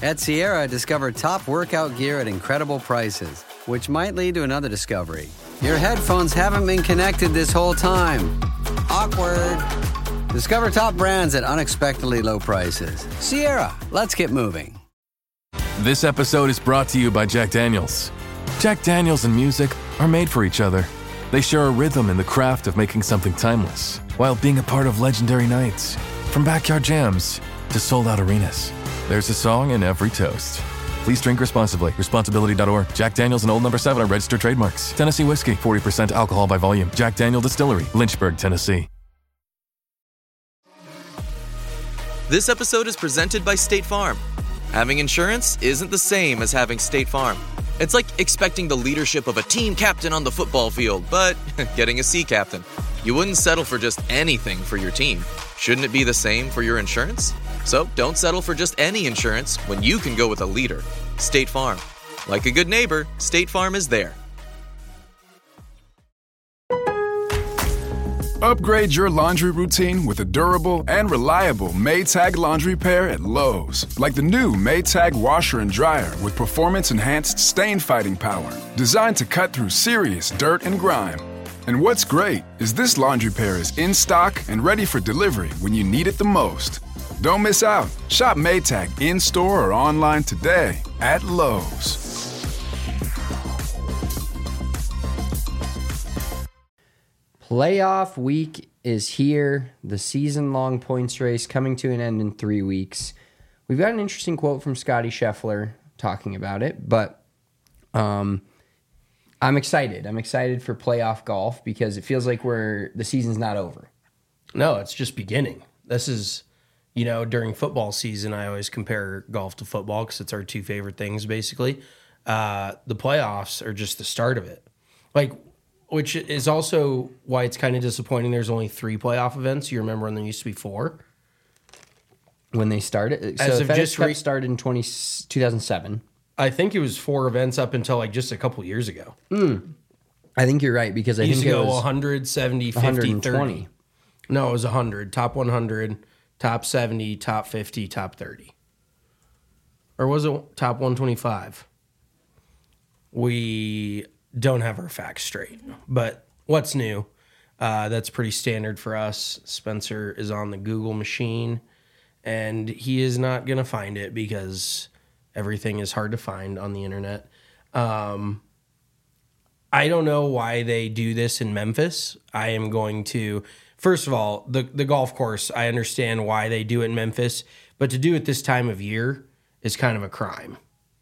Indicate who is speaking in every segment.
Speaker 1: At Sierra, discover top workout gear at incredible prices, which might lead to another discovery. Your headphones haven't been connected this whole time. Awkward. Discover top brands at unexpectedly low prices. Sierra, let's get moving.
Speaker 2: This episode is brought to you by Jack Daniels. Jack Daniels and music are made for each other. They share a rhythm in the craft of making something timeless, while being a part of legendary nights. From backyard jams to sold-out arenas, there's a song in every toast. Please drink responsibly. Responsibility.org. Jack Daniels and Old No. 7 are registered trademarks. Tennessee whiskey, 40% alcohol by volume. Jack Daniel Distillery, Lynchburg, Tennessee.
Speaker 3: This episode is presented by State Farm. Having insurance isn't the same as having State Farm. It's like expecting the leadership of a team captain on the football field, but getting a sea captain. You wouldn't settle for just anything for your team. Shouldn't it be the same for your insurance? So don't settle for just any insurance when you can go with a leader. State Farm. Like a good neighbor, State Farm is there.
Speaker 4: Upgrade your laundry routine with a durable and reliable Maytag laundry pair at Lowe's. Like the new Maytag washer and dryer with performance-enhanced stain-fighting power, designed to cut through serious dirt and grime. And what's great is this laundry pair is in stock and ready for delivery when you need it the most. Don't miss out. Shop Maytag in-store or online today at Lowe's.
Speaker 5: Playoff week is here. The season-long points race coming to an end in 3 weeks. We've got an interesting quote from Scotty Scheffler talking about it, but I'm excited. I'm excited for playoff golf because it feels like the season's not over.
Speaker 6: No, it's just beginning. This is, during football season, I always compare golf to football because it's our two favorite things, basically. The playoffs are just the start of it. Which is also why it's kind of disappointing there's only 3 playoff events. You remember when there used to be 4?
Speaker 5: When they started? So the FedEx Cup started in 2007.
Speaker 6: I think it was 4 events up until just a couple years ago.
Speaker 5: I think you're right because I think it was
Speaker 6: 100, 70, 50,
Speaker 5: 120.
Speaker 6: 30. No, it was 100. Top 100, top 70, top 50, top 30. Or was it top 125? We don't have our facts straight. But what's new? That's pretty standard for us. Spencer is on the Google machine, and he is not going to find it because everything is hard to find on the internet. I don't know why they do this in Memphis. I am going to... First of all, the golf course, I understand why they do it in Memphis, but to do it this time of year is kind of a crime.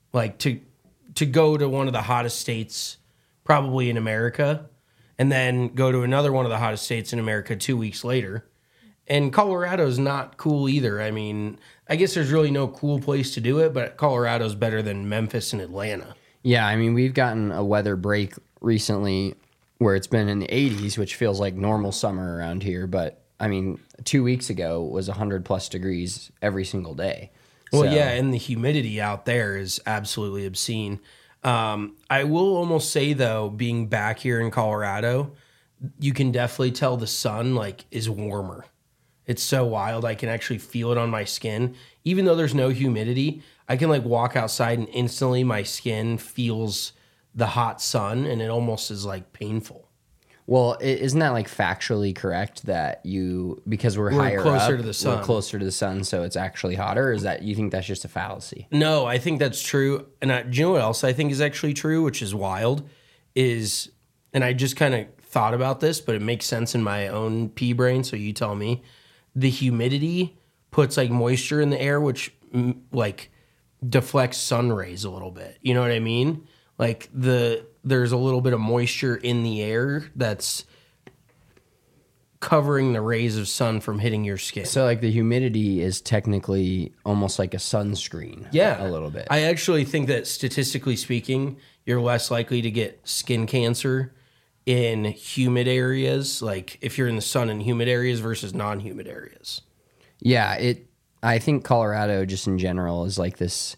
Speaker 6: To go to one of the hottest states probably in America, and then go to another one of the hottest states in America 2 weeks later. And Colorado's not cool either. I mean, I guess there's really no cool place to do it, but Colorado's better than Memphis and Atlanta.
Speaker 5: Yeah, I mean, we've gotten a weather break recently where it's been in the 80s, which feels like normal summer around here. But, I mean, 2 weeks ago was 100-plus degrees every single day.
Speaker 6: Well, yeah, and the humidity out there is absolutely obscene. I will almost say, though, being back here in Colorado, you can definitely tell the sun, is warmer. It's so wild. I can actually feel it on my skin. Even though there's no humidity, I can, walk outside and instantly my skin feels the hot sun, and it almost is, painful.
Speaker 5: Well, isn't that factually correct that because we're higher
Speaker 6: closer
Speaker 5: up,
Speaker 6: to the sun.
Speaker 5: we're closer to the sun, so it's actually hotter? Or is that you think that's just a fallacy?
Speaker 6: No, I think that's true. And do you know what else I think is actually true, which is wild, is, and I just kind of thought about this, but it makes sense in my own pea brain, so you tell me. The humidity puts moisture in the air, which deflects sun rays a little bit. You know what I mean? There's a little bit of moisture in the air that's covering the rays of sun from hitting your skin.
Speaker 5: So the humidity is technically almost like a sunscreen.
Speaker 6: Yeah.
Speaker 5: A little bit.
Speaker 6: I actually think that statistically speaking, you're less likely to get skin cancer in humid areas, if you're in the sun in humid areas versus non-humid areas.
Speaker 5: Yeah, I think Colorado just in general is this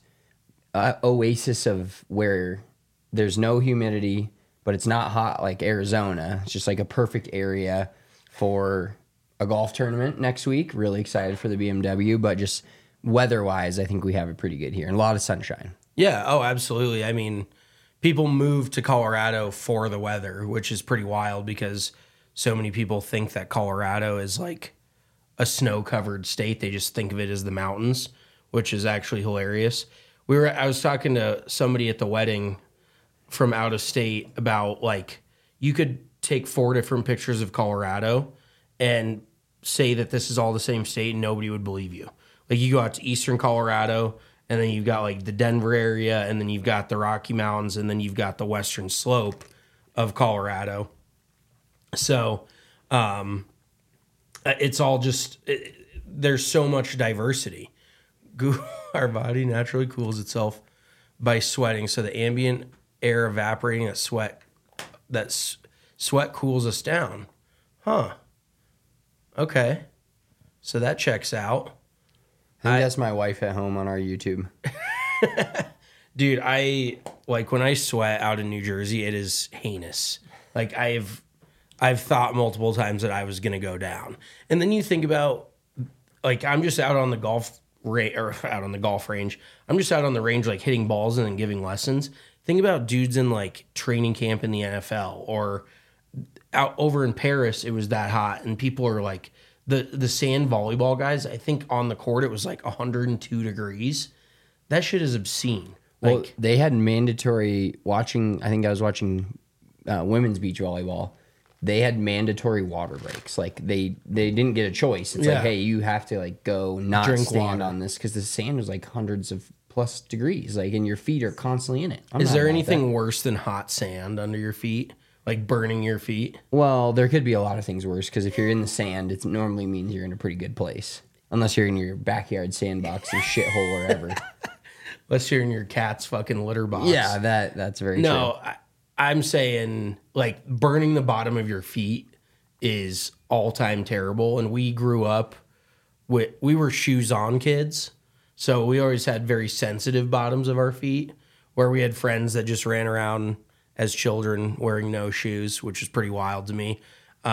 Speaker 5: oasis of where there's no humidity, but it's not hot like Arizona. It's just a perfect area for a golf tournament next week. Really excited for the BMW, but just weather-wise, I think we have it pretty good here. And a lot of sunshine.
Speaker 6: Yeah. Oh, absolutely. I mean, people move to Colorado for the weather, which is pretty wild because so many people think that Colorado is like a snow-covered state. They just think of it as the mountains, which is actually hilarious. I was talking to somebody at the wedding from out of state about like you could take 4 different pictures of Colorado and say that this is all the same state and nobody would believe you. Like you go out to eastern Colorado and then you've got like the Denver area and then you've got the Rocky Mountains and then you've got the western slope of Colorado. So it's all just, there's so much diversity. Our body naturally cools itself by sweating. So the ambient air evaporating, that sweat cools us down. Huh. Okay. So that checks out.
Speaker 5: I think that's my wife at home on our YouTube.
Speaker 6: Dude, I like when I sweat out in New Jersey, it is heinous. Like I've thought multiple times that I was gonna go down. And then you think about like I'm just out on the golf range. I'm just out on the range like hitting balls and then giving lessons. Think about dudes in like training camp in the NFL or out over in Paris, it was that hot and people are like the sand volleyball guys, I think on the court it was like 102 degrees. That shit is obscene. Like
Speaker 5: Well, they had mandatory watching. I think I was watching women's beach volleyball. They had mandatory water breaks. Like they didn't get a choice. It's
Speaker 6: Yeah.
Speaker 5: like, hey, you have to like go not
Speaker 6: Drink
Speaker 5: stand
Speaker 6: water.
Speaker 5: on this because the sand was like hundreds of plus degrees. Like, and your feet are constantly in it. I'm
Speaker 6: is
Speaker 5: not
Speaker 6: there
Speaker 5: about
Speaker 6: anything
Speaker 5: that.
Speaker 6: worse than hot sand under your feet? Like burning your feet?
Speaker 5: Well, there could be a lot of things worse because if you're in the sand, it normally means you're in a pretty good place. Unless you're in your backyard sandbox and shithole wherever.
Speaker 6: Unless you're in your cat's fucking litter box.
Speaker 5: Yeah, that's very true.
Speaker 6: No, I'm saying like burning the bottom of your feet is all time terrible. And we grew up we were shoes on kids. So we always had very sensitive bottoms of our feet where we had friends that just ran around as children wearing no shoes, which is pretty wild to me.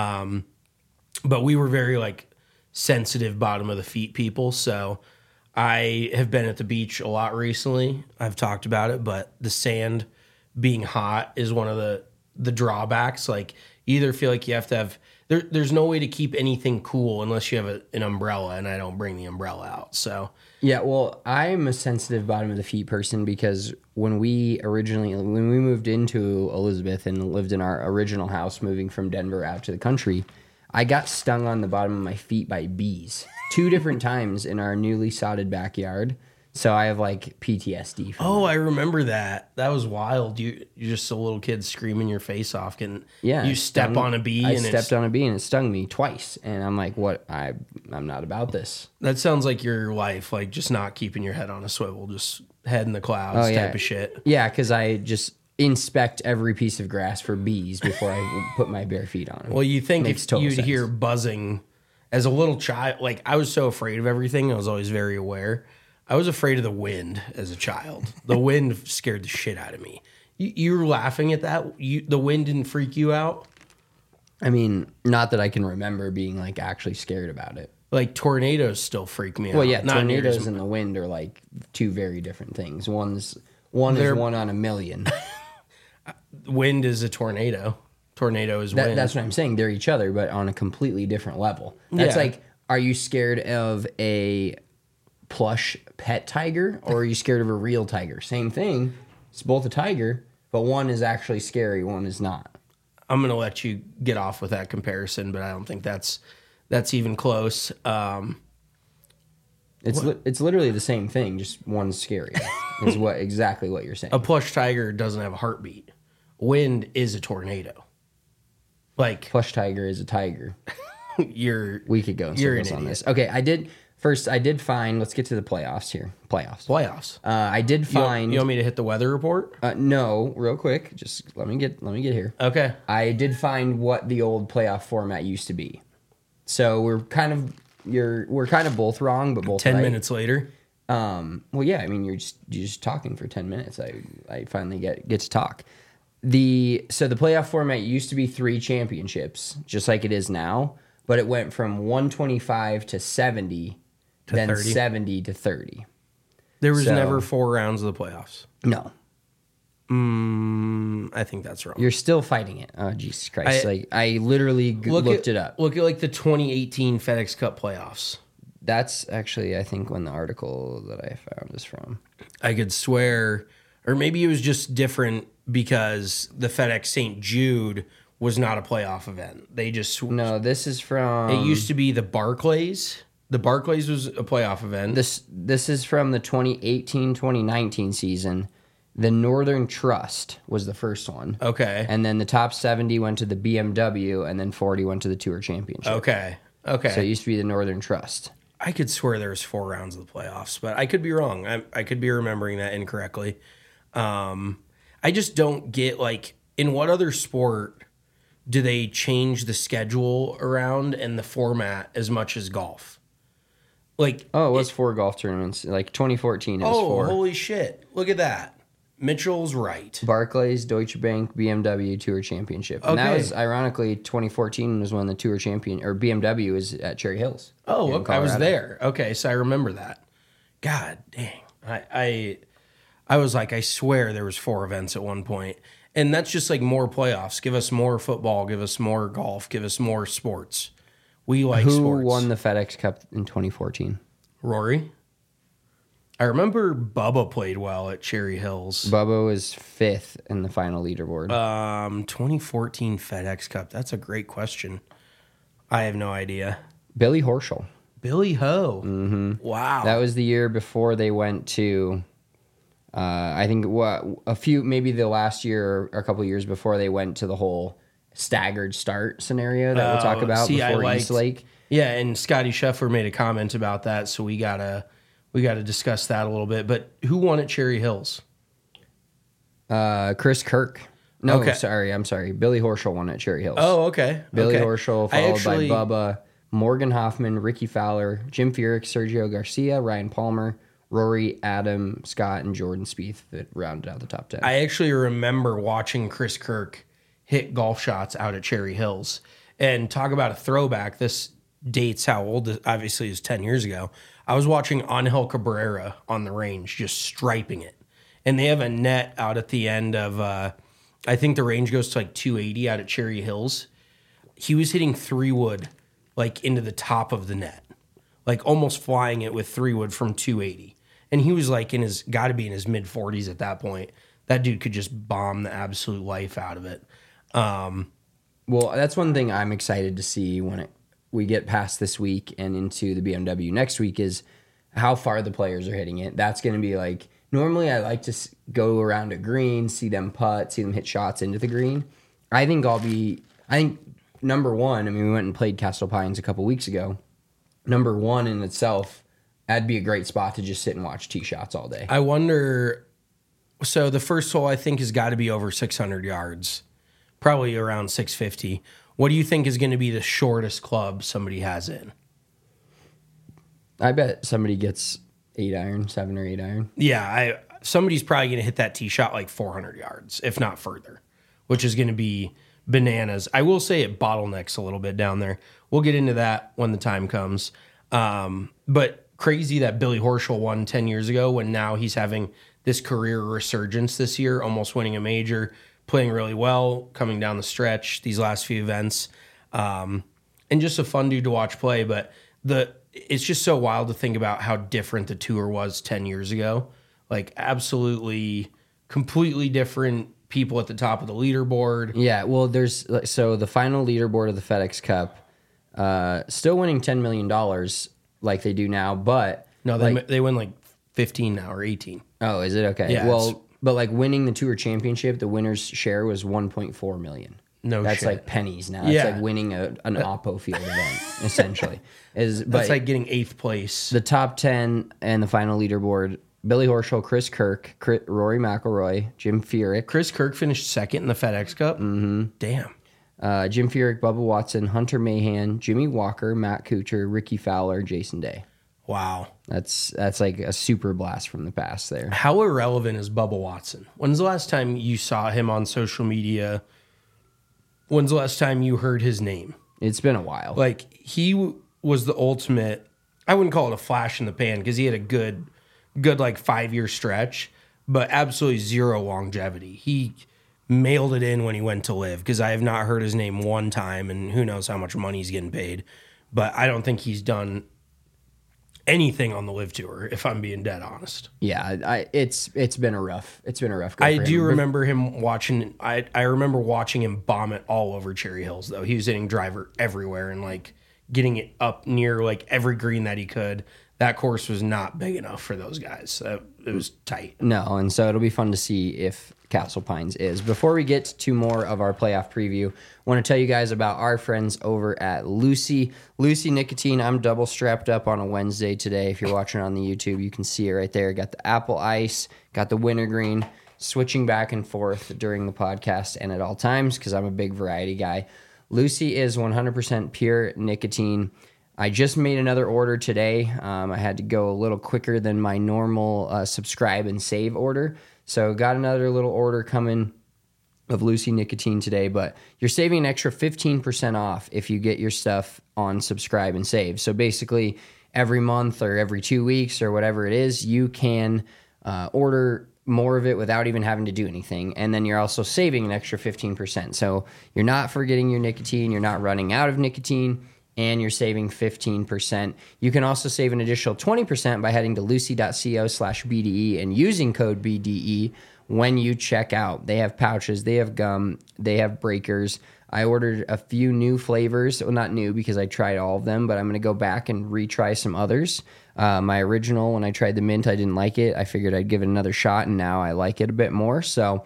Speaker 6: But we were very like sensitive bottom of the feet people. So I have been at the beach a lot recently. I've talked about it, but the sand being hot is one of the drawbacks. Like you either feel like you have to have there's no way to keep anything cool unless you have an umbrella, and I don't bring the umbrella out. So
Speaker 5: Yeah, well, I'm a sensitive bottom of the feet person because when we moved into Elizabeth and lived in our original house, moving from Denver out to the country, I got stung on the bottom of my feet by bees 2 different times in our newly sodded backyard. So I have like PTSD from
Speaker 6: I remember that. That was wild. You're just a little kid screaming your face off. And
Speaker 5: Yeah,
Speaker 6: you
Speaker 5: it
Speaker 6: step
Speaker 5: stung-
Speaker 6: on a bee.
Speaker 5: I
Speaker 6: and
Speaker 5: stepped on a bee and it stung me twice, and I'm like, "What? I'm not about this."
Speaker 6: That sounds like your life, like just not keeping your head on a swivel, just head in the clouds
Speaker 5: Oh, yeah.
Speaker 6: type of shit.
Speaker 5: Yeah, because I just inspect every piece of grass for bees before I put my bare feet on 'em.
Speaker 6: Well, you think
Speaker 5: Makes
Speaker 6: if
Speaker 5: total
Speaker 6: you'd
Speaker 5: sense.
Speaker 6: hear buzzing as a little child, like I was so afraid of everything, I was always very aware. I was afraid of the wind as a child. The wind scared the shit out of me. You were laughing at that? The wind didn't freak you out?
Speaker 5: I mean, not that I can remember being like actually scared about it.
Speaker 6: Like tornadoes still freak me out.
Speaker 5: Well, yeah,
Speaker 6: Not near
Speaker 5: tornadoes
Speaker 6: as-
Speaker 5: and the wind are like 2 very different things. One is 1 on a million.
Speaker 6: Wind is a tornado. Tornado is wind.
Speaker 5: That's what I'm saying. They're each other, but on a completely different level. That's
Speaker 6: Yeah.
Speaker 5: like, are you scared of a plush pet tiger or are you scared of a real tiger? Same thing. It's both a tiger, but one is actually scary, one is not.
Speaker 6: I'm gonna let you get off with that comparison, but I don't think that's even close.
Speaker 5: It's literally the same thing, just one's scary. Is exactly what you're saying.
Speaker 6: A plush tiger doesn't have a heartbeat. Wind is a tornado. Like
Speaker 5: Plush tiger is a tiger.
Speaker 6: you're
Speaker 5: We could go in
Speaker 6: You're an
Speaker 5: circles on
Speaker 6: idiot.
Speaker 5: this. Okay, I did find. Let's get to the playoffs here.
Speaker 6: playoffs.
Speaker 5: I did find.
Speaker 6: You want me to hit the weather report?
Speaker 5: No, real quick. Just let me get here.
Speaker 6: Okay.
Speaker 5: I did find what the old playoff format used to be. So we're kind of both wrong, but both
Speaker 6: 10
Speaker 5: right.
Speaker 6: minutes later.
Speaker 5: Well, yeah. I mean, you're just talking for 10 minutes. I finally get to talk. So the playoff format used to be 3 championships, just like it is now. But it went from 125 to 70 then
Speaker 6: 30?
Speaker 5: 70 to 30.
Speaker 6: There was
Speaker 5: So-
Speaker 6: never 4 rounds of the playoffs.
Speaker 5: No,
Speaker 6: I think that's wrong.
Speaker 5: you're still fighting it. Oh, Jesus Christ. I literally looked it up.
Speaker 6: Look at like the 2018 FedEx Cup playoffs.
Speaker 5: That's actually, I think, when the article that I found is from.
Speaker 6: I could swear, or maybe it was just different because the FedEx St. Jude was not a playoff event. They just
Speaker 5: No, this is from...
Speaker 6: It used to be the Barclays. The Barclays was a playoff event.
Speaker 5: This is from the 2018-2019 season. The Northern Trust was the first one.
Speaker 6: Okay.
Speaker 5: And then the top 70 went to the BMW, and then 40 went to the Tour Championship.
Speaker 6: Okay.
Speaker 5: So it used to be the Northern Trust.
Speaker 6: I could swear there was 4 rounds of the playoffs, but I could be wrong. I could be remembering that incorrectly. I just don't get, like, in what other sport do they change the schedule around and the format as much as golf? Like,
Speaker 5: Oh, it was 4 golf tournaments. Like 2014, it was 4.
Speaker 6: holy shit. Look at that. Mitchell's right.
Speaker 5: Barclays, Deutsche Bank, BMW Tour Championship. And that
Speaker 6: Okay.
Speaker 5: was, ironically, 2014 was when the Tour Champion, or BMW was at Cherry Hills.
Speaker 6: Oh,
Speaker 5: in
Speaker 6: okay, I was
Speaker 5: Colorado.
Speaker 6: there. Okay, so I remember that. God dang. I was like, I swear there was 4 events at one point. And that's just like more playoffs. Give us more football, give us more golf, give us more sports. We like
Speaker 5: Who
Speaker 6: sports.
Speaker 5: won the FedEx Cup in 2014?
Speaker 6: Rory? I remember Bubba played well at Cherry Hills.
Speaker 5: Bubba was 5th in the final leaderboard.
Speaker 6: 2014 FedEx Cup. That's a great question. I have no idea.
Speaker 5: Billy Horschel.
Speaker 6: Billy Ho. Mm-hmm. Wow.
Speaker 5: That was the year before they went to, I think, maybe the last year or a couple years before they went to the whole staggered start scenario that we'll talk about before East Lake.
Speaker 6: Yeah, and Scotty Scheffler made a comment about that, so we gotta discuss that a little bit. But who won at Cherry Hills?
Speaker 5: Chris Kirk. No,
Speaker 6: Okay.
Speaker 5: I'm sorry. Billy Horschel won at Cherry Hills.
Speaker 6: Oh, okay.
Speaker 5: Billy
Speaker 6: okay.
Speaker 5: Horschel, followed by Bubba, Morgan Hoffman, Ricky Fowler, Jim Furyk, Sergio Garcia, Ryan Palmer, Rory, Adam Scott, and Jordan Spieth that rounded out the top 10.
Speaker 6: I actually remember watching Chris Kirk hit golf shots out at Cherry Hills. And talk about a throwback. This dates how old this obviously is 10 years ago. I was watching Angel Cabrera on the range just striping it. And they have a net out at the end of, I think the range goes to like 280 out at Cherry Hills. He was hitting 3-wood like into the top of the net, like almost flying it with 3-wood from 280. And he was like got to be in his mid 40s at that point. That dude could just bomb the absolute life out of it.
Speaker 5: Well, that's one thing I'm excited to see when we get past this week and into the BMW next week is how far the players are hitting it. That's going to be like, normally I like to go around a green, see them putt, see them hit shots into the green. I think number one, I mean, we went and played Castle Pines a couple weeks ago. Number one in itself, that'd be a great spot to just sit and watch tee shots all day.
Speaker 6: I wonder, so the first hole I think has got to be over 600 yards, probably around 650. What do you think is going to be the shortest club somebody has in?
Speaker 5: I bet somebody gets 7 or 8 iron.
Speaker 6: Yeah, somebody's probably going to hit that tee shot like 400 yards, if not further, which is going to be bananas. I will say it bottlenecks a little bit down there. We'll get into that when the time comes. But crazy that Billy Horschel won 10 years ago when now he's having this career resurgence this year, almost winning a major, playing really well, coming down the stretch, these last few events. And just a fun dude to watch play. But it's just so wild to think about how different the tour was 10 years ago. Like absolutely, completely different people at the top of the leaderboard.
Speaker 5: Yeah, well, so the final leaderboard of the FedEx Cup, still winning $10 million like they do now, but...
Speaker 6: No, they win like 15 now or 18.
Speaker 5: Oh, is it? Okay.
Speaker 6: Yeah,
Speaker 5: well, but like winning the Tour Championship, the winner's share was $1.4 million.
Speaker 6: No
Speaker 5: That's
Speaker 6: shit.
Speaker 5: like pennies now.
Speaker 6: Yeah.
Speaker 5: It's like winning an Oppo Field event, essentially.
Speaker 6: That's like getting 8th place.
Speaker 5: The top 10 and the final leaderboard, Billy Horschel, Chris Kirk, Rory McIlroy, Jim Furyk.
Speaker 6: Chris Kirk finished second in the FedEx Cup? Mm-hmm. Damn.
Speaker 5: Jim Furyk, Bubba Watson, Hunter Mahan, Jimmy Walker, Matt Kuchar, Ricky Fowler, Jason Day.
Speaker 6: Wow.
Speaker 5: That's like a super blast from the past there.
Speaker 6: How irrelevant is Bubba Watson? When's the last time you saw him on social media? When's the last time you heard his name?
Speaker 5: It's been a while.
Speaker 6: Like, he was the ultimate I wouldn't call it a flash in the pan because he had a good like 5-year stretch, but absolutely zero longevity. He mailed it in when he went to live because I have not heard his name one time, and who knows how much money he's getting paid. But I don't think he's done anything on the live tour, if I'm being dead honest.
Speaker 5: Yeah, it's been a rough go
Speaker 6: I
Speaker 5: for
Speaker 6: do
Speaker 5: him.
Speaker 6: remember him watching. I remember watching him bomb it all over Cherry Hills though. He was hitting driver everywhere and like getting it up near like every green that he could. That course was not big enough for those guys. It was tight.
Speaker 5: No, and so it'll be fun to see if Castle Pines is. Before we get to more of our playoff preview, I want to tell you guys about our friends over at Lucy. Lucy Nicotine, I'm double strapped up on a Wednesday today. If you're watching on the YouTube, you can see it right there. Got the apple ice, got the wintergreen, switching back and forth during the podcast and at all times because I'm a big variety guy. Lucy is 100% pure nicotine. I just made another order today. I had to go a little quicker than my normal subscribe and save order. So got another little order coming of Lucy Nicotine today, but you're saving an extra 15% off if you get your stuff on subscribe and save. So basically every month or every 2 weeks or whatever it is, you can order more of it without even having to do anything. And then you're also saving an extra 15%. So you're not forgetting your nicotine, you're not running out of nicotine, and you're saving 15%. You can also save an additional 20% by heading to lucy.co/BDE and using code BDE when you check out. They have pouches, they have gum, they have breakers. I ordered a few new flavors. Well, not new because I tried all of them, but I'm going to go back and retry some others. My original, when I tried the mint, I didn't like it. I figured I'd give it another shot, and now I like it a bit more. So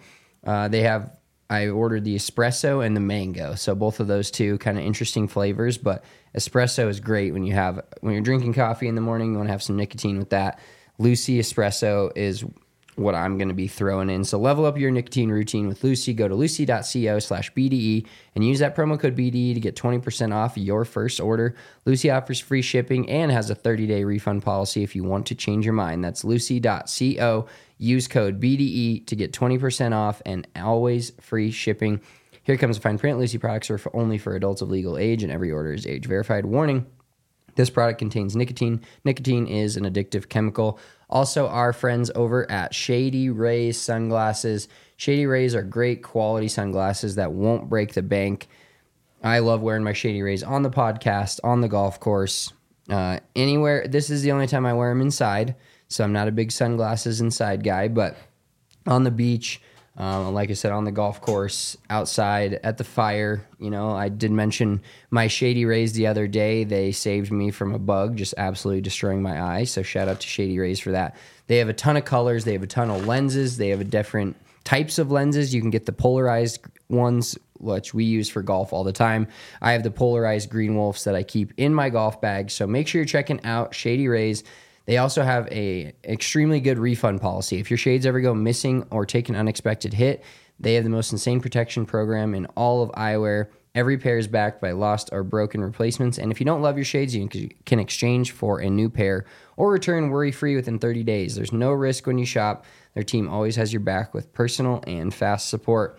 Speaker 5: I ordered the espresso and the mango. So both of those two kind of interesting flavors, but espresso is great when you're drinking coffee in the morning, you want to have some nicotine with that. Lucy espresso is what I'm going to be throwing in. So level up your nicotine routine with Lucy. Go to lucy.co/BDE and use that promo code BDE to get 20% off your first order. Lucy offers free shipping and has a 30-day refund policy if you want to change your mind. That's lucy.co. Use code BDE to get 20% off and always free shipping. Here comes the fine print. Lucy products are only for adults of legal age, and every order is age verified. Warning: this product contains nicotine. Nicotine is an addictive chemical. Also, our friends over at Shady Rays sunglasses. Shady Rays are great quality sunglasses that won't break the bank. I love wearing my Shady Rays on the podcast, on the golf course, anywhere. This is the only time I wear them inside, so I'm not a big sunglasses inside guy, but on the beach, like I said, on the golf course, outside, at the fire. You know, I did mention my Shady Rays the other day. They saved me from a bug just absolutely destroying my eye. So shout out to Shady Rays for that. They have a ton of colors. They have a ton of lenses. They have different types of lenses. You can get the polarized ones, which we use for golf all the time. I have the polarized Green Wolves that I keep in my golf bag. So make sure you're checking out Shady Rays. They also have a extremely good refund policy. If your shades ever go missing or take an unexpected hit, they have the most insane protection program in all of eyewear. Every pair is backed by lost or broken replacements. And if you don't love your shades, you can exchange for a new pair or return worry-free within 30 days. There's no risk when you shop. Their team always has your back with personal and fast support.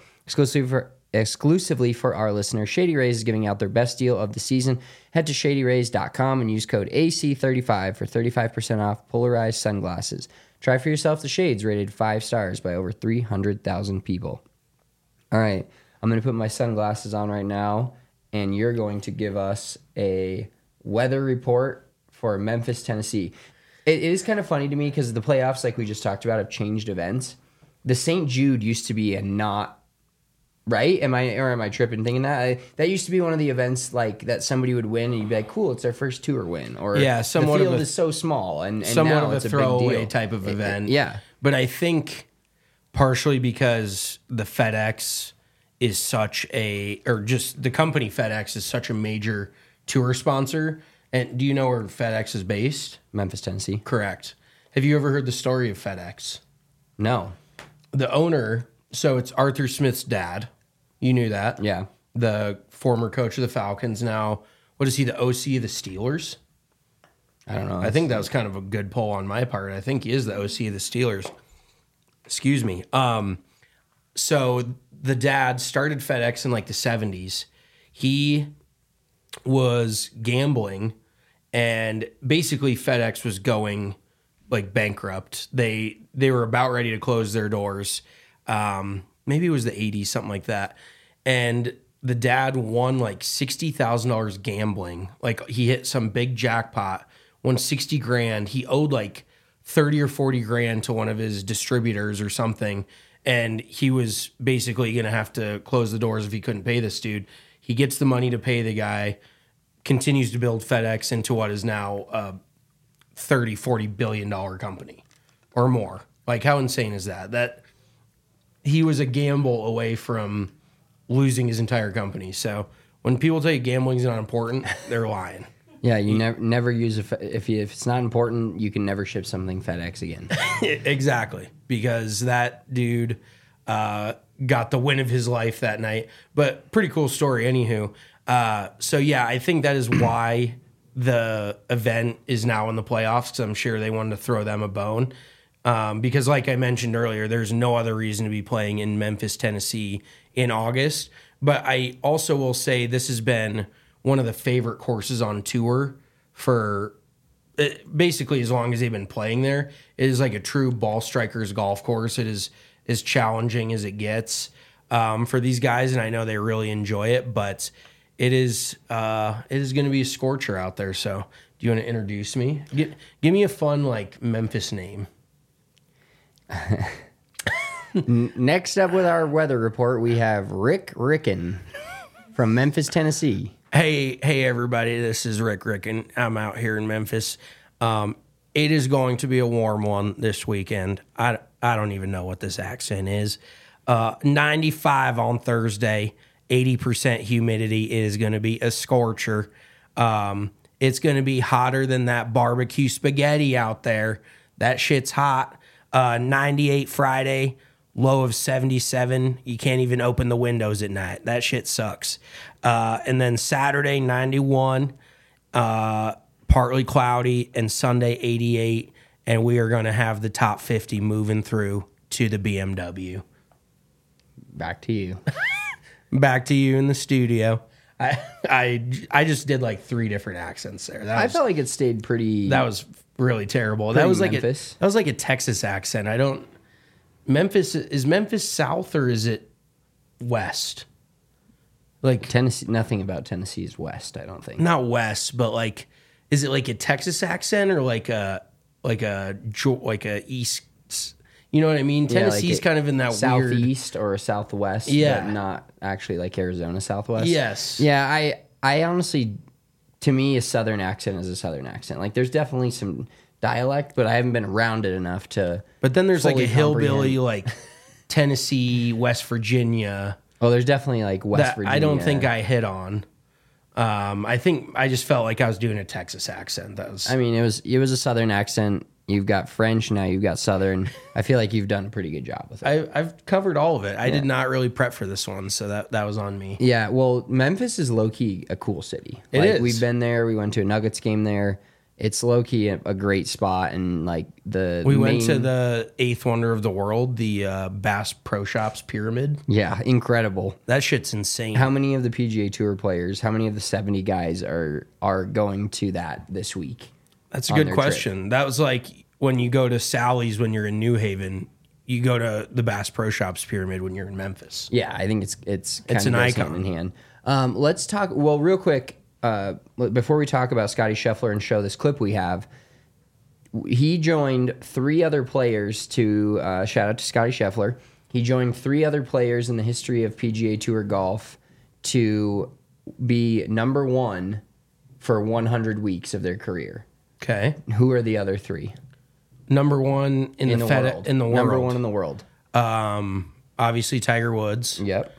Speaker 5: Exclusively for our listeners, Shady Rays is giving out their best deal of the season. Head to shadyrays.com and use code AC35 for 35% off polarized sunglasses. Try for yourself the shades rated 5 stars by over 300,000 people. All right, I'm going to put my sunglasses on right now, and you're going to give us a weather report for Memphis, Tennessee. It is kind of funny to me because the playoffs, like we just talked about, have changed events. The St. Jude used to be a not... Right? Am I tripping thinking that? That used to be one of the events like that somebody would win and you'd be like, cool, it's their first tour win. Or
Speaker 6: yeah, somewhat
Speaker 5: the field is so small and
Speaker 6: somewhat
Speaker 5: now
Speaker 6: of a
Speaker 5: it's
Speaker 6: throwaway
Speaker 5: a big deal.
Speaker 6: type of event.
Speaker 5: Yeah.
Speaker 6: But I think partially because the FedEx is such just the company FedEx is such a major tour sponsor. And do you know where FedEx is based?
Speaker 5: Memphis, Tennessee.
Speaker 6: Correct. Have you ever heard the story of FedEx?
Speaker 5: No.
Speaker 6: The owner, so it's Arthur Smith's dad. You knew that.
Speaker 5: Yeah.
Speaker 6: The former coach of the Falcons. Now, what is he, the OC of the Steelers?
Speaker 5: I don't know.
Speaker 6: I think that was kind of a good poll on my part. I think he is the OC of the Steelers. Excuse me. So the dad started FedEx in like the 70s. He was gambling and basically FedEx was going like bankrupt. They were about ready to close their doors. Maybe it was the 80s, something like that. And the dad won like $60,000 gambling. Like he hit some big jackpot, won 60 grand. He owed like 30 or 40 grand to one of his distributors or something. And he was basically going to have to close the doors if he couldn't pay this dude. He gets the money to pay the guy, continues to build FedEx into what is now a $30-40 billion company or more. Like, how insane is that? That he was a gamble away from losing his entire company. So when people tell you gambling's not important, they're lying.
Speaker 5: Yeah, you never use if it's not important, you can never ship something FedEx again.
Speaker 6: Exactly, because that dude got the win of his life that night. But pretty cool story, anywho. So yeah, I think that is why the event is now in the playoffs, because I'm sure they wanted to throw them a bone. Because like I mentioned earlier, there's no other reason to be playing in Memphis, Tennessee in August. But I also will say this has been one of the favorite courses on tour for basically as long as they've been playing there. It is like a true ball strikers golf course. It is as challenging as it gets for these guys, and I know they really enjoy it, but it is going to be a scorcher out there. So do you want to introduce me? Give me a fun like Memphis name.
Speaker 5: Next up with our weather report, we have Rick Ricken from Memphis, Tennessee.
Speaker 6: Hey, everybody, this is Rick Ricken. I'm out here in Memphis. It is going to be a warm one this weekend. I don't even know what this accent is. 95 on Thursday, 80% humidity. It is going to be a scorcher. It's going to be hotter than that barbecue spaghetti out there. That shit's hot. 98 Friday, low of 77. You can't even open the windows at night. That shit sucks. And then Saturday, 91, partly cloudy, and Sunday, 88. And we are going to have the top 50 moving through to the BMW.
Speaker 5: Back to you.
Speaker 6: Back to you in the studio. I just did like 3 different accents there.
Speaker 5: I felt like it stayed pretty.
Speaker 6: That was really terrible. That was like
Speaker 5: Memphis.
Speaker 6: that was like a Texas accent. Memphis, is Memphis south or is it west? Like
Speaker 5: Tennessee. Nothing about Tennessee is west, I don't think.
Speaker 6: not west, but like, is it like a Texas accent or like a east? You know what I mean? Tennessee's kind of in that
Speaker 5: southeast or southwest,
Speaker 6: Yeah.
Speaker 5: but not actually like Arizona southwest.
Speaker 6: Yes.
Speaker 5: Yeah, I honestly, to me, a southern accent is a southern accent. Like, there's definitely some dialect, but I haven't been around it enough to.
Speaker 6: But then there's like a
Speaker 5: fully
Speaker 6: hillbilly,
Speaker 5: comprehend.
Speaker 6: like Tennessee, West Virginia.
Speaker 5: Oh, there's definitely like West
Speaker 6: That
Speaker 5: Virginia.
Speaker 6: I don't think I hit on. I think I just felt like I was doing a Texas accent. That was.
Speaker 5: I mean, it was a southern accent. You've got French now. You've got southern. I feel like you've done a pretty good job with it.
Speaker 6: I've covered all of it. I did not really prep for this one, so that was on me.
Speaker 5: Yeah, well, Memphis is low key a cool city.
Speaker 6: It
Speaker 5: Like,
Speaker 6: is.
Speaker 5: We've been there. We went to a Nuggets game there. It's low key a great spot, and like
Speaker 6: We went to the 8th wonder of the world, the Bass Pro Shops Pyramid.
Speaker 5: Yeah, incredible.
Speaker 6: That shit's insane.
Speaker 5: How many of the PGA Tour players? How many of the 70 guys are going to that this week?
Speaker 6: That's a
Speaker 5: on
Speaker 6: good
Speaker 5: their
Speaker 6: question. That was like when you go to Sally's when you're in New Haven. You go to the Bass Pro Shops Pyramid when you're in Memphis.
Speaker 5: Yeah, I think it's kind
Speaker 6: It's
Speaker 5: of
Speaker 6: an
Speaker 5: goes
Speaker 6: icon.
Speaker 5: hand in hand. Let's talk. Well, real quick, before we talk about Scotty Scheffler and show this clip we have, he joined 3 other players to shout out to Scotty Scheffler. He joined 3 other players in the history of PGA Tour golf to be number 1 for 100 weeks of their career.
Speaker 6: Okay.
Speaker 5: Who are the other 3
Speaker 6: Number 1 in the
Speaker 5: world?
Speaker 6: in the world.
Speaker 5: Number 1 in the world.
Speaker 6: Obviously Tiger Woods.
Speaker 5: Yep.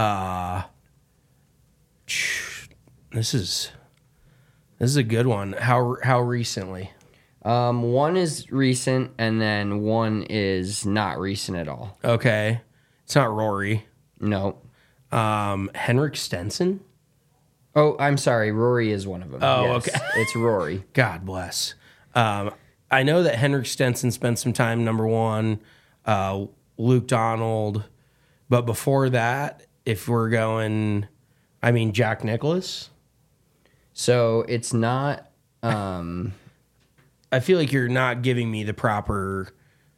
Speaker 6: This is a good one. How recently?
Speaker 5: 1 is recent, and then 1 is not recent at all.
Speaker 6: Okay. It's not Rory.
Speaker 5: No.
Speaker 6: Henrik Stenson?
Speaker 5: Oh, I'm sorry. Rory is one of them.
Speaker 6: Oh,
Speaker 5: Yes,
Speaker 6: okay.
Speaker 5: It's Rory.
Speaker 6: God bless. I know that Henrik Stenson spent some time number 1, Luke Donald, but before that, if we're going, Jack Nicklaus.
Speaker 5: So it's not
Speaker 6: I feel like you're not giving me the proper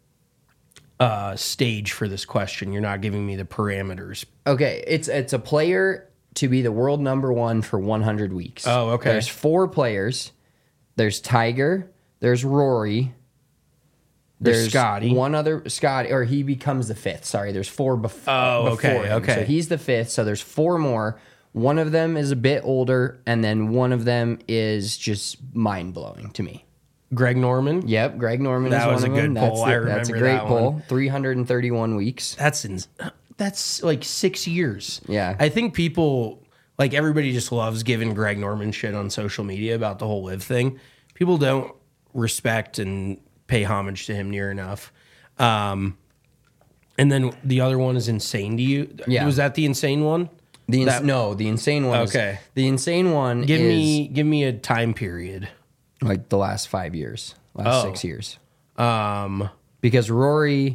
Speaker 6: stage for this question. You're not giving me the parameters.
Speaker 5: Okay, it's a player to be the world number one for 100 weeks.
Speaker 6: Oh, okay.
Speaker 5: There's 4 players. There's Tiger. There's Rory. There's
Speaker 6: Scotty.
Speaker 5: One other Scotty, or he becomes the 5th. Sorry, there's 4 before.
Speaker 6: okay,
Speaker 5: him.
Speaker 6: okay.
Speaker 5: So he's the 5th. So there's 4 more. One of them is a bit older, and then one of them is just mind blowing to me.
Speaker 6: Greg Norman.
Speaker 5: Yep, Greg Norman
Speaker 6: That
Speaker 5: is
Speaker 6: was
Speaker 5: one
Speaker 6: a
Speaker 5: of them.
Speaker 6: good poll. I
Speaker 5: That's a
Speaker 6: remember
Speaker 5: great
Speaker 6: that
Speaker 5: poll.
Speaker 6: one.
Speaker 5: 331 weeks.
Speaker 6: That's like 6 years.
Speaker 5: Yeah.
Speaker 6: I think people, like everybody just loves giving Greg Norman shit on social media about the whole live thing. People don't respect and pay homage to him near enough. And then the other one is Insane to you.
Speaker 5: Yeah.
Speaker 6: Was that the Insane one?
Speaker 5: No, the insane one.
Speaker 6: Okay.
Speaker 5: The insane one
Speaker 6: Give
Speaker 5: is
Speaker 6: me a time period.
Speaker 5: like the last 5 years, last
Speaker 6: Oh.
Speaker 5: 6 years. Because Rory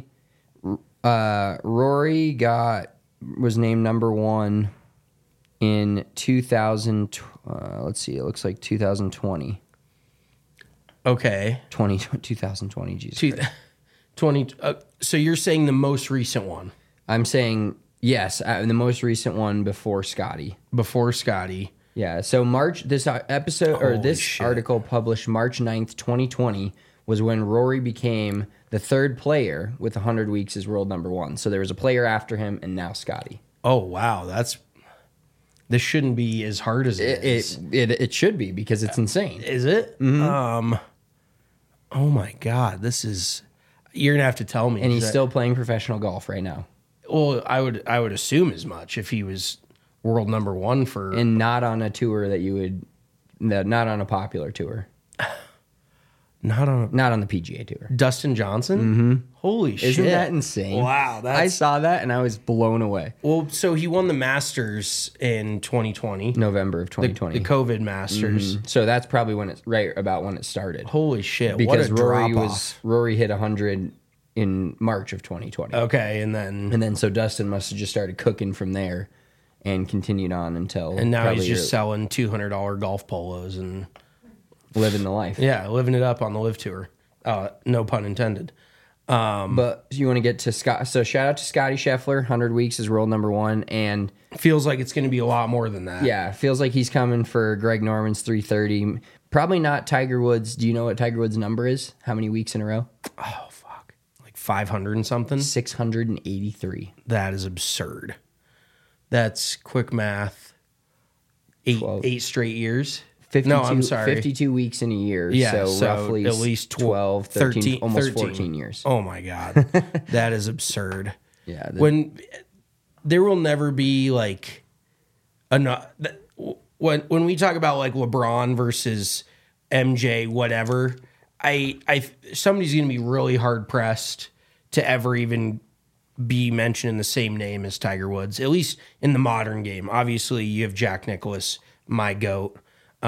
Speaker 5: was named number 1 in 2000. Let's see, it looks like 2020.
Speaker 6: Okay.
Speaker 5: 2020. Jesus Christ.
Speaker 6: 20. So you're saying the most recent one
Speaker 5: I'm saying yes, the most recent one before Scotty.
Speaker 6: before Scotty.
Speaker 5: Yeah, so this episode or
Speaker 6: Holy
Speaker 5: this
Speaker 6: shit.
Speaker 5: article published March 9th, 2020 was when Rory became the 3rd player with 100 weeks as world number 1. So there was a player after him and now Scotty.
Speaker 6: Oh wow, this shouldn't be as hard as it is.
Speaker 5: It should be because it's insane.
Speaker 6: Is it? Oh my god, you're gonna have to tell me.
Speaker 5: And he's still playing professional golf right now.
Speaker 6: Well, I would assume as much if he was world number 1 for.
Speaker 5: And not on a tour not on a popular tour.
Speaker 6: Not on
Speaker 5: the PGA tour.
Speaker 6: Dustin Johnson. Mm-hmm. Holy shit!
Speaker 5: Isn't that insane?
Speaker 6: Wow,
Speaker 5: I saw that and I was blown away.
Speaker 6: Well, so he won the Masters in 2020,
Speaker 5: November of 2020.
Speaker 6: the COVID Masters.
Speaker 5: So that's probably when about when it started.
Speaker 6: Holy shit!
Speaker 5: Because
Speaker 6: what a
Speaker 5: Rory hit 100 in March of 2020.
Speaker 6: Okay, and then
Speaker 5: So Dustin must have just started cooking from there and continued on until
Speaker 6: now
Speaker 5: probably
Speaker 6: he's just selling $200 golf polos and
Speaker 5: living the life.
Speaker 6: yeah, living it up on the live tour. No pun intended.
Speaker 5: But you want to get to Scott? So shout out to Scotty Scheffler. 100 weeks is world number 1, and
Speaker 6: Feels like it's going to be a lot more than that.
Speaker 5: yeah, feels like he's coming for Greg Norman's 330. Probably not Tiger Woods. Do you know what Tiger Woods' number is? How many weeks in a row?
Speaker 6: Oh fuck, like 500 and something.
Speaker 5: 683.
Speaker 6: That is absurd. That's quick math.
Speaker 5: 12.
Speaker 6: 8 straight years.
Speaker 5: 52,
Speaker 6: No, I'm sorry.
Speaker 5: 52 weeks in a year.
Speaker 6: Yeah,
Speaker 5: so roughly
Speaker 6: at least
Speaker 5: 12, 13, almost 14 years.
Speaker 6: Oh my god, that is absurd.
Speaker 5: Yeah.
Speaker 6: When there will never be like enough. When we talk about like LeBron versus MJ, whatever, somebody's gonna be really hard pressed to ever even be mentioned in the same name as Tiger Woods, at least in the modern game. Obviously, you have Jack Nicklaus, my GOAT,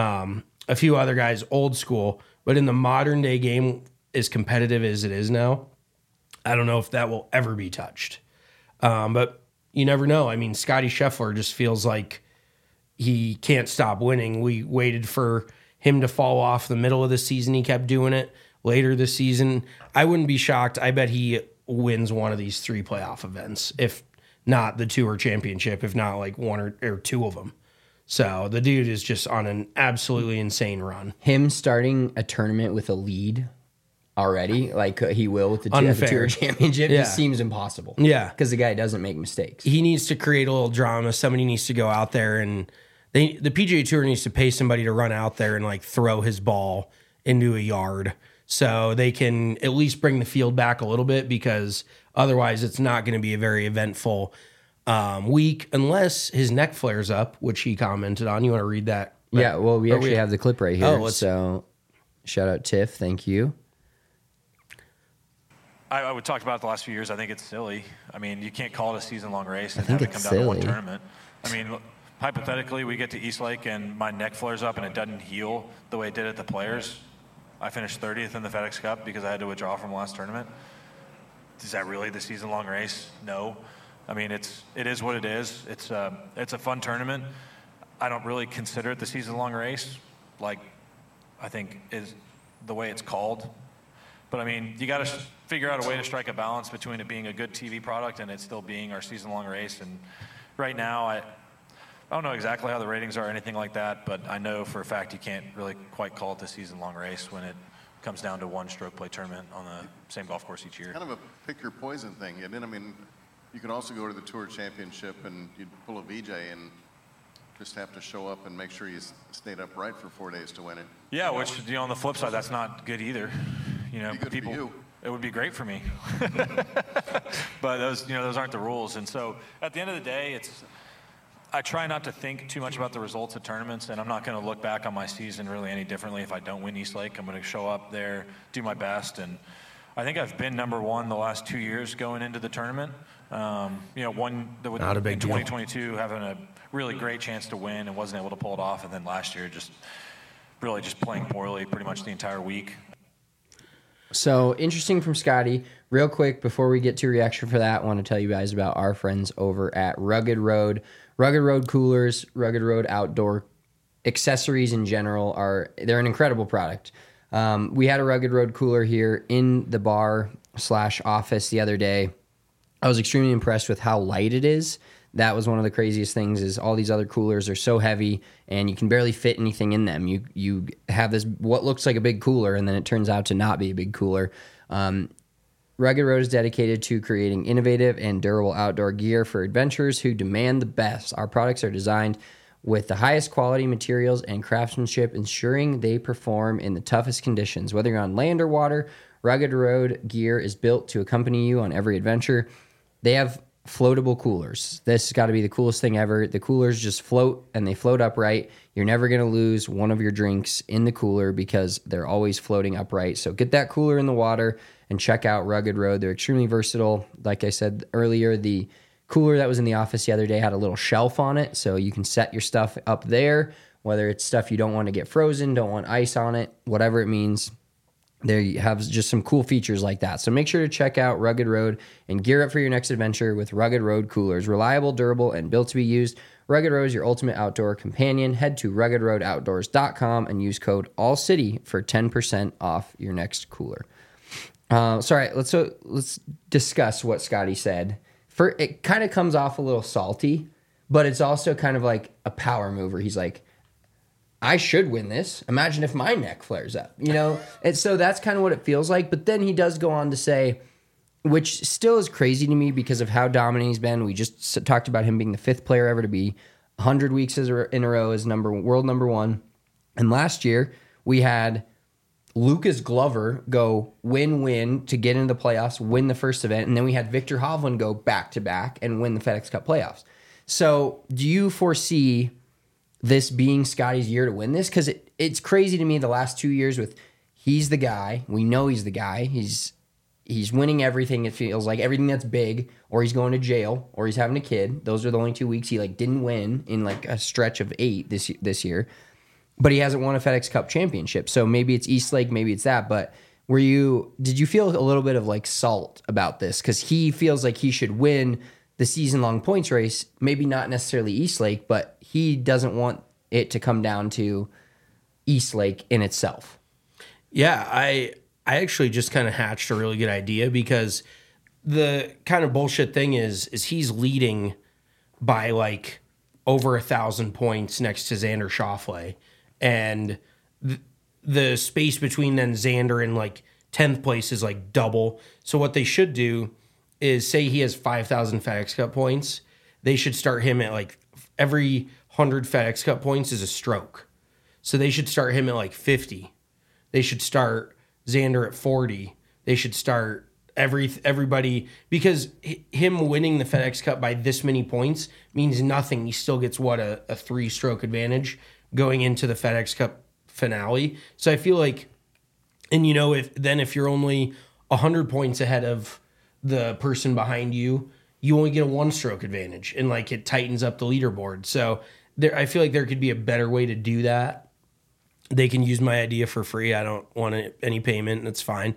Speaker 6: a few other guys, old school, but in the modern day game, as competitive as it is now, I don't know if that will ever be touched. But you never know. I mean, Scotty Scheffler just feels like he can't stop winning. We waited for him to fall off the middle of the season. He kept doing it later this season. I wouldn't be shocked. I bet he wins one of these 3 playoff events, if not the Tour Championship, if not like 1 or 2 of them. So the dude is just on an absolutely insane run.
Speaker 5: Him starting a tournament with a lead already, like he will with the
Speaker 6: Unfair.
Speaker 5: Tour Championship,
Speaker 6: Yeah.
Speaker 5: just seems impossible.
Speaker 6: Yeah.
Speaker 5: Because the guy doesn't make mistakes.
Speaker 6: He needs to create a little drama. Somebody needs to go out there and the PGA Tour needs to pay somebody to run out there and like throw his ball into a yard so they can at least bring the field back a little bit, because otherwise it's not going to be a very eventful week unless his neck flares up, which he commented on. You want to read that?
Speaker 5: Yeah, well, we
Speaker 6: Or
Speaker 5: actually have the clip right here.
Speaker 6: Oh,
Speaker 5: so shout out Tiff. Thank you.
Speaker 7: I would talk about it the last few years. I think it's silly. I mean, you can't call it a season-long race and
Speaker 5: think
Speaker 7: have it come
Speaker 5: it's
Speaker 7: down to one
Speaker 5: silly.
Speaker 7: tournament. I mean, hypothetically, we get to East Lake and my neck flares up and it doesn't heal the way it did at the Players. I finished 30th in the FedEx Cup because I had to withdraw from the last tournament. Is that really the season-long race? No. I mean, it is what it is. It's a fun tournament. I don't really consider it the season-long race. Like, I think, is the way it's called. But I mean, you got to figure out a way to strike a balance between it being a good TV product and it still being our season-long race. And right now, I don't know exactly how the ratings are or anything like that, but I know for a fact you can't really quite call it the season-long race when it comes down to one stroke play tournament on the same golf course each year.
Speaker 8: It's kind of a pick your poison thing, isn't it? I mean, you could also go to the Tour Championship and you'd pull a VJ and just have to show up and make sure you stayed upright for 4 days to win it.
Speaker 7: Yeah, which, on the flip side, that's not good either.
Speaker 8: People, for you.
Speaker 7: It would be great for me. But those aren't the rules. And so at the end of the day, I try not to think too much about the results of tournaments, and I'm not going to look back on my season really any differently if I don't win East Lake. I'm going to show up there, do my best, and I think I've been number one the last 2 years going into the tournament. One that would,
Speaker 6: not a big
Speaker 7: in
Speaker 6: deal.
Speaker 7: 2022 having a really great chance to win and wasn't able to pull it off, and then last year just playing poorly pretty much the entire week.
Speaker 5: So interesting from Scotty. Real quick, before we get to reaction for that, I want to tell you guys about our friends over at Rugged Road. Rugged Road coolers, Rugged Road outdoor accessories in general they're an incredible product. We had a Rugged Road cooler here in the bar/office the other day. I was extremely impressed with how light it is. That was one of the craziest things is all these other coolers are so heavy and you can barely fit anything in them. You have this what looks like a big cooler and then it turns out to not be a big cooler. Rugged Road is dedicated to creating innovative and durable outdoor gear for adventurers who demand the best. Our products are designed with the highest quality materials and craftsmanship, ensuring they perform in the toughest conditions. Whether you're on land or water, Rugged Road gear is built to accompany you on every adventure. They have floatable coolers. This has got to be the coolest thing ever. The coolers just float and they float upright. You're never going to lose one of your drinks in the cooler because they're always floating upright. So get that cooler in the water and check out Rugged Road. They're extremely versatile. Like I said earlier, the cooler that was in the office the other day had a little shelf on it, so you can set your stuff up there, whether it's stuff you don't want to get frozen, don't want ice on it, whatever it means. There you have just some cool features like that. So make sure to check out Rugged Road and gear up for your next adventure with Rugged Road coolers. Reliable, durable, and built to be used. Rugged Road is your ultimate outdoor companion. Head to ruggedroadoutdoors.com and use code ALLCITY for 10% off your next cooler. Let's discuss what Scotty said. It kind of comes off a little salty, but it's also kind of like a power mover. He's like, I should win this. Imagine if my neck flares up, And so that's kind of what it feels like. But then he does go on to say, which still is crazy to me because of how dominant he's been. We just talked about him being the 5th player ever to be 100 weeks in a row as world number 1. And last year we had Lucas Glover go win to get into the playoffs, win the first event. And then we had Victor Hovland go back-to-back and win the FedEx Cup playoffs. So do you foresee this being Scotty's year to win this? Because it's crazy to me the last 2 years with he's the guy. We know he's the guy. He's winning everything. It feels like everything that's big, or he's going to jail, or he's having a kid. Those are the only 2 weeks he didn't win in a stretch of 8 this year. But he hasn't won a FedEx Cup championship. So maybe it's East Lake, maybe it's that. But did you feel a little bit of salt about this? Because he feels like he should win the season-long points race, maybe not necessarily East Lake, but he doesn't want it to come down to East Lake in itself.
Speaker 6: Yeah, I actually just kind of hatched a really good idea because the kind of bullshit thing is he's leading by over 1,000 points next to Xander Schauffele, and the space between then Xander and 10th place is double. So what they should do is say he has 5,000 FedEx Cup points. They should start him at every 100 FedEx Cup points is a stroke. So they should start him at 50. They should start Xander at 40. They should start everybody, because him winning the FedEx Cup by this many points means nothing. He still gets a 3-stroke advantage going into the FedEx Cup finale. So I feel like, and if you're only 100 points ahead of the person behind you, you only get a 1-stroke advantage, and it tightens up the leaderboard. So I feel like there could be a better way to do that. They can use my idea for free. I don't want any payment. That's fine.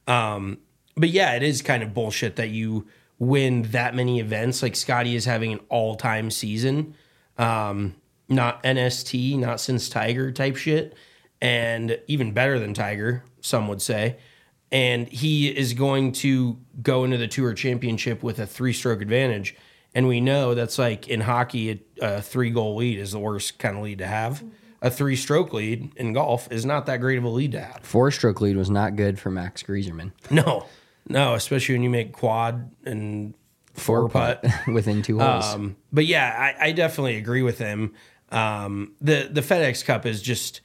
Speaker 6: But yeah, it is kind of bullshit that you win that many events. Scotty is having an all-time season, not NST, not since Tiger type shit. and even better than Tiger, some would say. And he is going to go into the Tour Championship with a 3-stroke advantage. And we know that's like in hockey, a 3-goal lead is the worst kind of lead to have. A 3-stroke lead in golf is not that great of a lead to have.
Speaker 5: 4-stroke lead was not good for Max Grieserman.
Speaker 6: No, especially when you make quad and 4-putt
Speaker 5: within 2 holes.
Speaker 6: But yeah, I definitely agree with him. The FedEx Cup is just,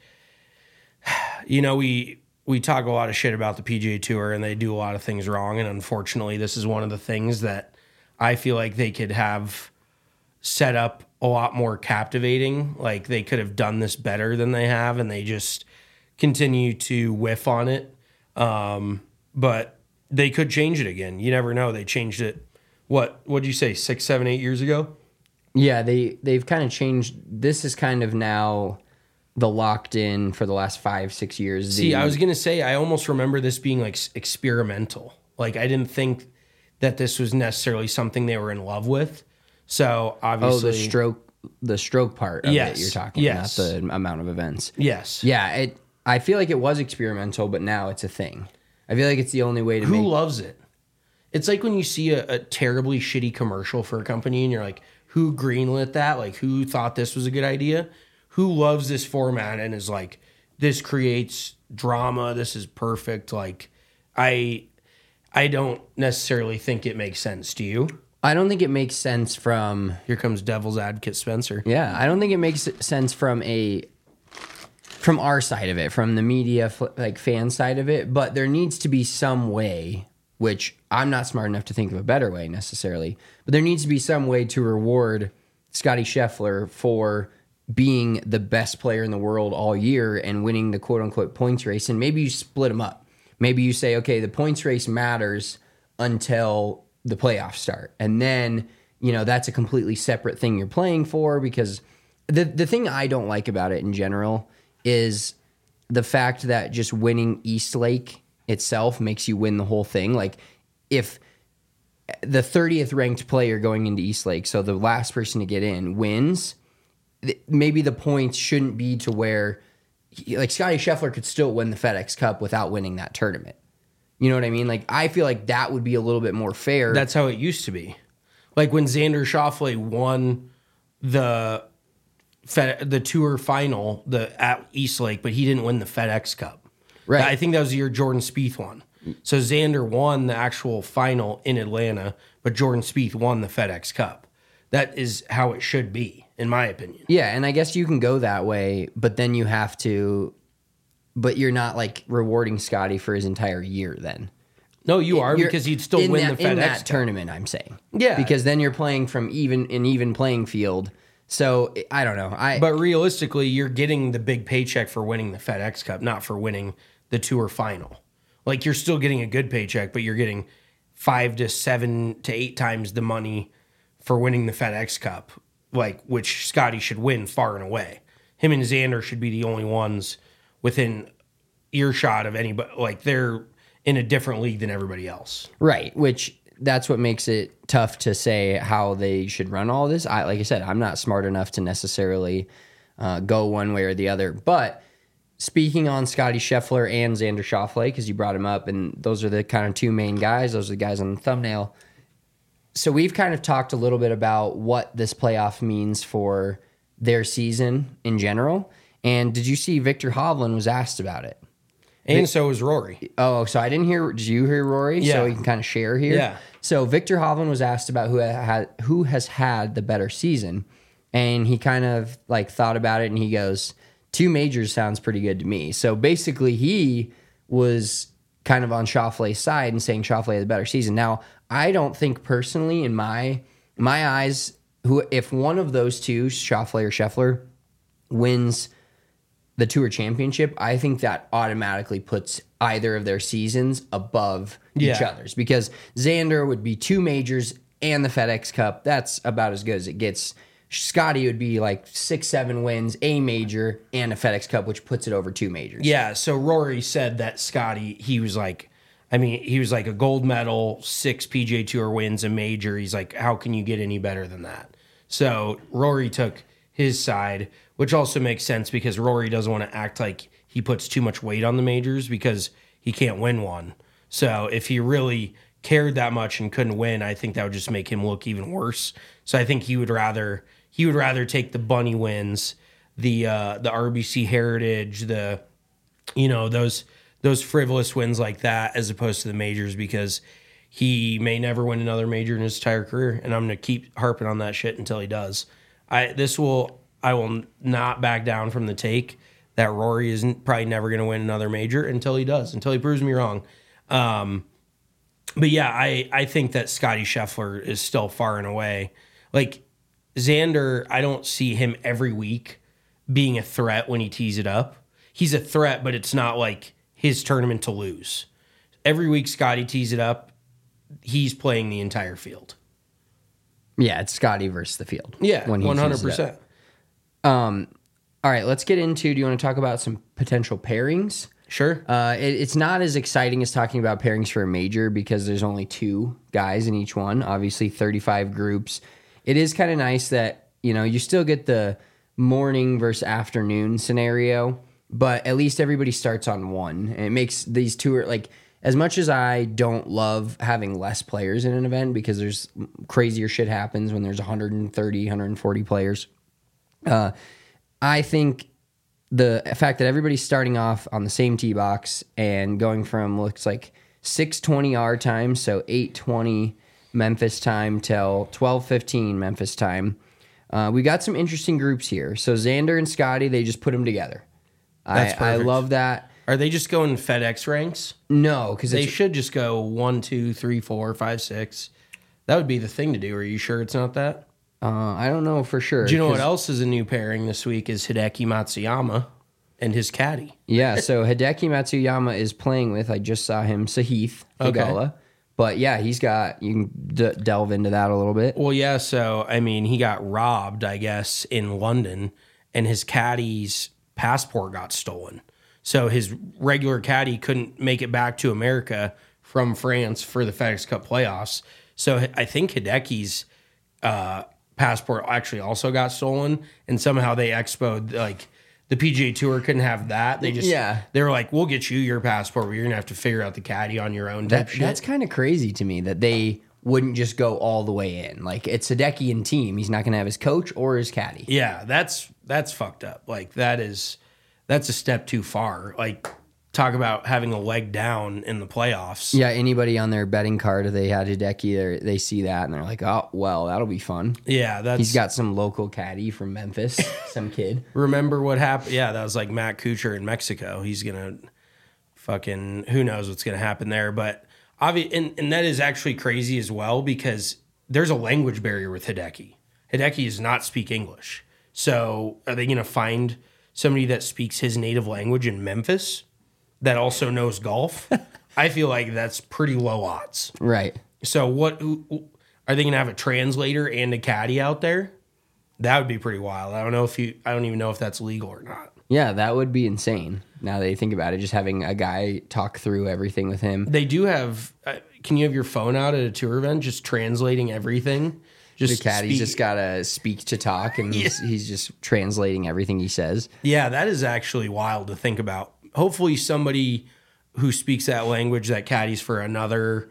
Speaker 6: we talk a lot of shit about the PGA Tour and they do a lot of things wrong. And unfortunately, this is one of the things that I feel like they could have set up a lot more captivating. Like they could have done this better than they have, and they just continue to whiff on it. But they could change it again. You never know. They changed it. What'd you say, 6, 7, 8 years ago?
Speaker 5: Yeah, they've kind of changed. This is kind of now the locked in for the last 5, 6 years.
Speaker 6: See, I was going to say, I almost remember this being like experimental. Like I didn't think that this was necessarily something they were in love with. So obviously,
Speaker 5: the stroke part of it you're talking,
Speaker 6: yes.
Speaker 5: Not the amount of events.
Speaker 6: Yes.
Speaker 5: Yeah, I feel like it was experimental, but now it's a thing. I feel like it's the only way to
Speaker 6: Who loves it? It's like when you see a terribly shitty commercial for a company and you're like, who greenlit that? Like, who thought this was a good idea? Who loves this format and is like, this creates drama. This is perfect. Like, I don't necessarily think it makes sense. Do you?
Speaker 5: I don't think it makes sense from...
Speaker 6: Here comes devil's advocate Spencer.
Speaker 5: Yeah, I don't think it makes sense from our side of it, from the media, like fan side of it, but there needs to be some way, which I'm not smart enough to think of a better way necessarily, but there needs to be some way to reward Scottie Scheffler for being the best player in the world all year and winning the quote-unquote points race, and maybe you split them up. Maybe you say, okay, the points race matters until the playoffs start, and then, that's a completely separate thing you're playing for, because the thing I don't like about it in general is the fact that just winning East Lake itself makes you win the whole thing. Like, if the 30th ranked player going into East Lake, so the last person to get in, wins, maybe the points shouldn't be to where, like, Scottie Scheffler could still win the FedEx Cup without winning that tournament. You know what I mean? Like, I feel like that would be a little bit more fair.
Speaker 6: That's how it used to be. Like when Xander Schauffele won the Tour final at East Lake, but he didn't win the FedEx Cup.
Speaker 5: Right.
Speaker 6: I think that was the year Jordan Spieth won. So Xander won the actual final in Atlanta, but Jordan Spieth won the FedEx Cup. That is how it should be, in my opinion.
Speaker 5: Yeah, and I guess you can go that way, but then you have to... But you're not, like, rewarding Scottie for his entire year then.
Speaker 6: No, you are, because he'd still win the FedEx
Speaker 5: in that
Speaker 6: Cup.
Speaker 5: tournament, I'm saying.
Speaker 6: Yeah.
Speaker 5: Because then you're playing from an even playing field. So, I don't know.
Speaker 6: But realistically, you're getting the big paycheck for winning the FedEx Cup, not for winning the Tour final. Like, you're still getting a good paycheck, but you're getting 5 to 7 to 8 times the money for winning the FedEx Cup, like, which Scottie should win far and away. Him and Xander should be the only ones within earshot of anybody. Like, they're in a different league than everybody else.
Speaker 5: Right, which that's what makes it tough to say how they should run all this. Like I said, I'm not smart enough to necessarily go one way or the other. But speaking on Scottie Scheffler and Xander Schauffele, because you brought him up, and those are the kind of two main guys. Those are the guys on the thumbnail. So we've kind of talked a little bit about what this playoff means for their season in general. And did you see Victor Hovland was asked about it?
Speaker 6: And so was Rory.
Speaker 5: Oh, so I didn't hear. Did you hear Rory?
Speaker 6: Yeah.
Speaker 5: So we can kind of share here.
Speaker 6: Yeah.
Speaker 5: So Victor Hovland was asked about who has had the better season, and he kind of like thought about it, and he goes, 2 majors sounds pretty good to me. So basically, he was kind of on Schauffele's side and saying Schauffele had the better season. Now, I don't think personally, in my eyes, if one of those two, Schauffele or Scheffler, wins the Tour Championship, I think that automatically puts either of their seasons above each other's, because Xander would be 2 majors and the FedEx Cup. That's about as good as it gets. Scottie would be like 6, 7 wins, a major, and a FedEx Cup, which puts it over 2 majors.
Speaker 6: Yeah, so Rory said that Scottie, he was like a gold medal, 6 PGA Tour wins, a major. He's like, how can you get any better than that? So Rory took his side, which also makes sense because Rory doesn't want to act like he puts too much weight on the majors because he can't win one. So if he really cared that much and couldn't win, I think that would just make him look even worse. So I think he would rather take the bunny wins, the RBC Heritage, those frivolous wins like that, as opposed to the majors, because he may never win another major in his entire career, and I'm going to keep harping on that shit until he does. I will not back down from the take that Rory isn't probably never going to win another major until he does, until he proves me wrong. But yeah, I think that Scotty Scheffler is still far and away. Like Xander, I don't see him every week being a threat when he tees it up. He's a threat, but it's not like his tournament to lose. Every week Scotty tees it up, he's playing the entire field.
Speaker 5: Yeah, it's Scotty versus the field.
Speaker 6: Yeah, 100%.
Speaker 5: All right, let's get into, do you want to talk about some potential pairings?
Speaker 6: Sure.
Speaker 5: It's not as exciting as talking about pairings for a major because there's only 2 guys in each one. Obviously, 35 groups. It is kind of nice that, you still get the morning versus afternoon scenario, but at least everybody starts on one. And it makes these two, like, as much as I don't love having less players in an event because there's crazier shit happens when there's 130, 140 players, I think the fact that everybody's starting off on the same tee box and going from, looks like 6:20 our time, so 8:20 Memphis time till 12:15 Memphis time. We got some interesting groups here. So Xander and Scotty, they just put them together. I love that.
Speaker 6: Are they just going FedEx ranks?
Speaker 5: No, because
Speaker 6: they should just go 1, 2, 3, 4, 5, 6. That would be the thing to do. Are you sure it's not that?
Speaker 5: I don't know for sure.
Speaker 6: Do you know what else is a new pairing this week is Hideki Matsuyama and his caddy.
Speaker 5: Yeah, so Hideki Matsuyama is playing with, I just saw him, Sahith Theegala. Okay. But yeah, he's got, you can delve into that a little bit.
Speaker 6: Well, yeah, so, I mean, he got robbed, I guess, in London, and his caddy's passport got stolen. So his regular caddy couldn't make it back to America from France for the FedEx Cup playoffs. So I think Hideki's passport actually also got stolen, and somehow they expoed, like, the PGA Tour couldn't have that. They were like, we'll get you your passport, but you're going to have to figure out the caddy on your own type shit.
Speaker 5: That's kind of crazy to me that they wouldn't just go all the way in. Like, it's Hideki and team. He's not going to have his coach or his caddy.
Speaker 6: Yeah, that's fucked up. Like, that's a step too far. Like, talk about having a leg down in the playoffs.
Speaker 5: Yeah, anybody on their betting card, if they had Hideki, they see that and they're like, oh, well, that'll be fun.
Speaker 6: Yeah,
Speaker 5: he's got some local caddy from Memphis, some kid.
Speaker 6: Remember what happened? Yeah, that was like Matt Kuchar in Mexico. He's going to fucking, who knows what's going to happen there. But and that is actually crazy as well because there's a language barrier with Hideki. Hideki does not speak English. So are they going to find somebody that speaks his native language in Memphis that also knows golf? I feel like that's pretty low odds.
Speaker 5: Right.
Speaker 6: So what are they going to have a translator and a caddy out there? That would be pretty wild. I don't even know if that's legal or not.
Speaker 5: Yeah, that would be insane. Now that you think about it, just having a guy talk through everything with him.
Speaker 6: They do have, can you have your phone out at a tour event just translating everything?
Speaker 5: The caddy's just got to speak to talk, and he's just translating everything he says.
Speaker 6: Yeah, that is actually wild to think about. Hopefully somebody who speaks that language that caddies for another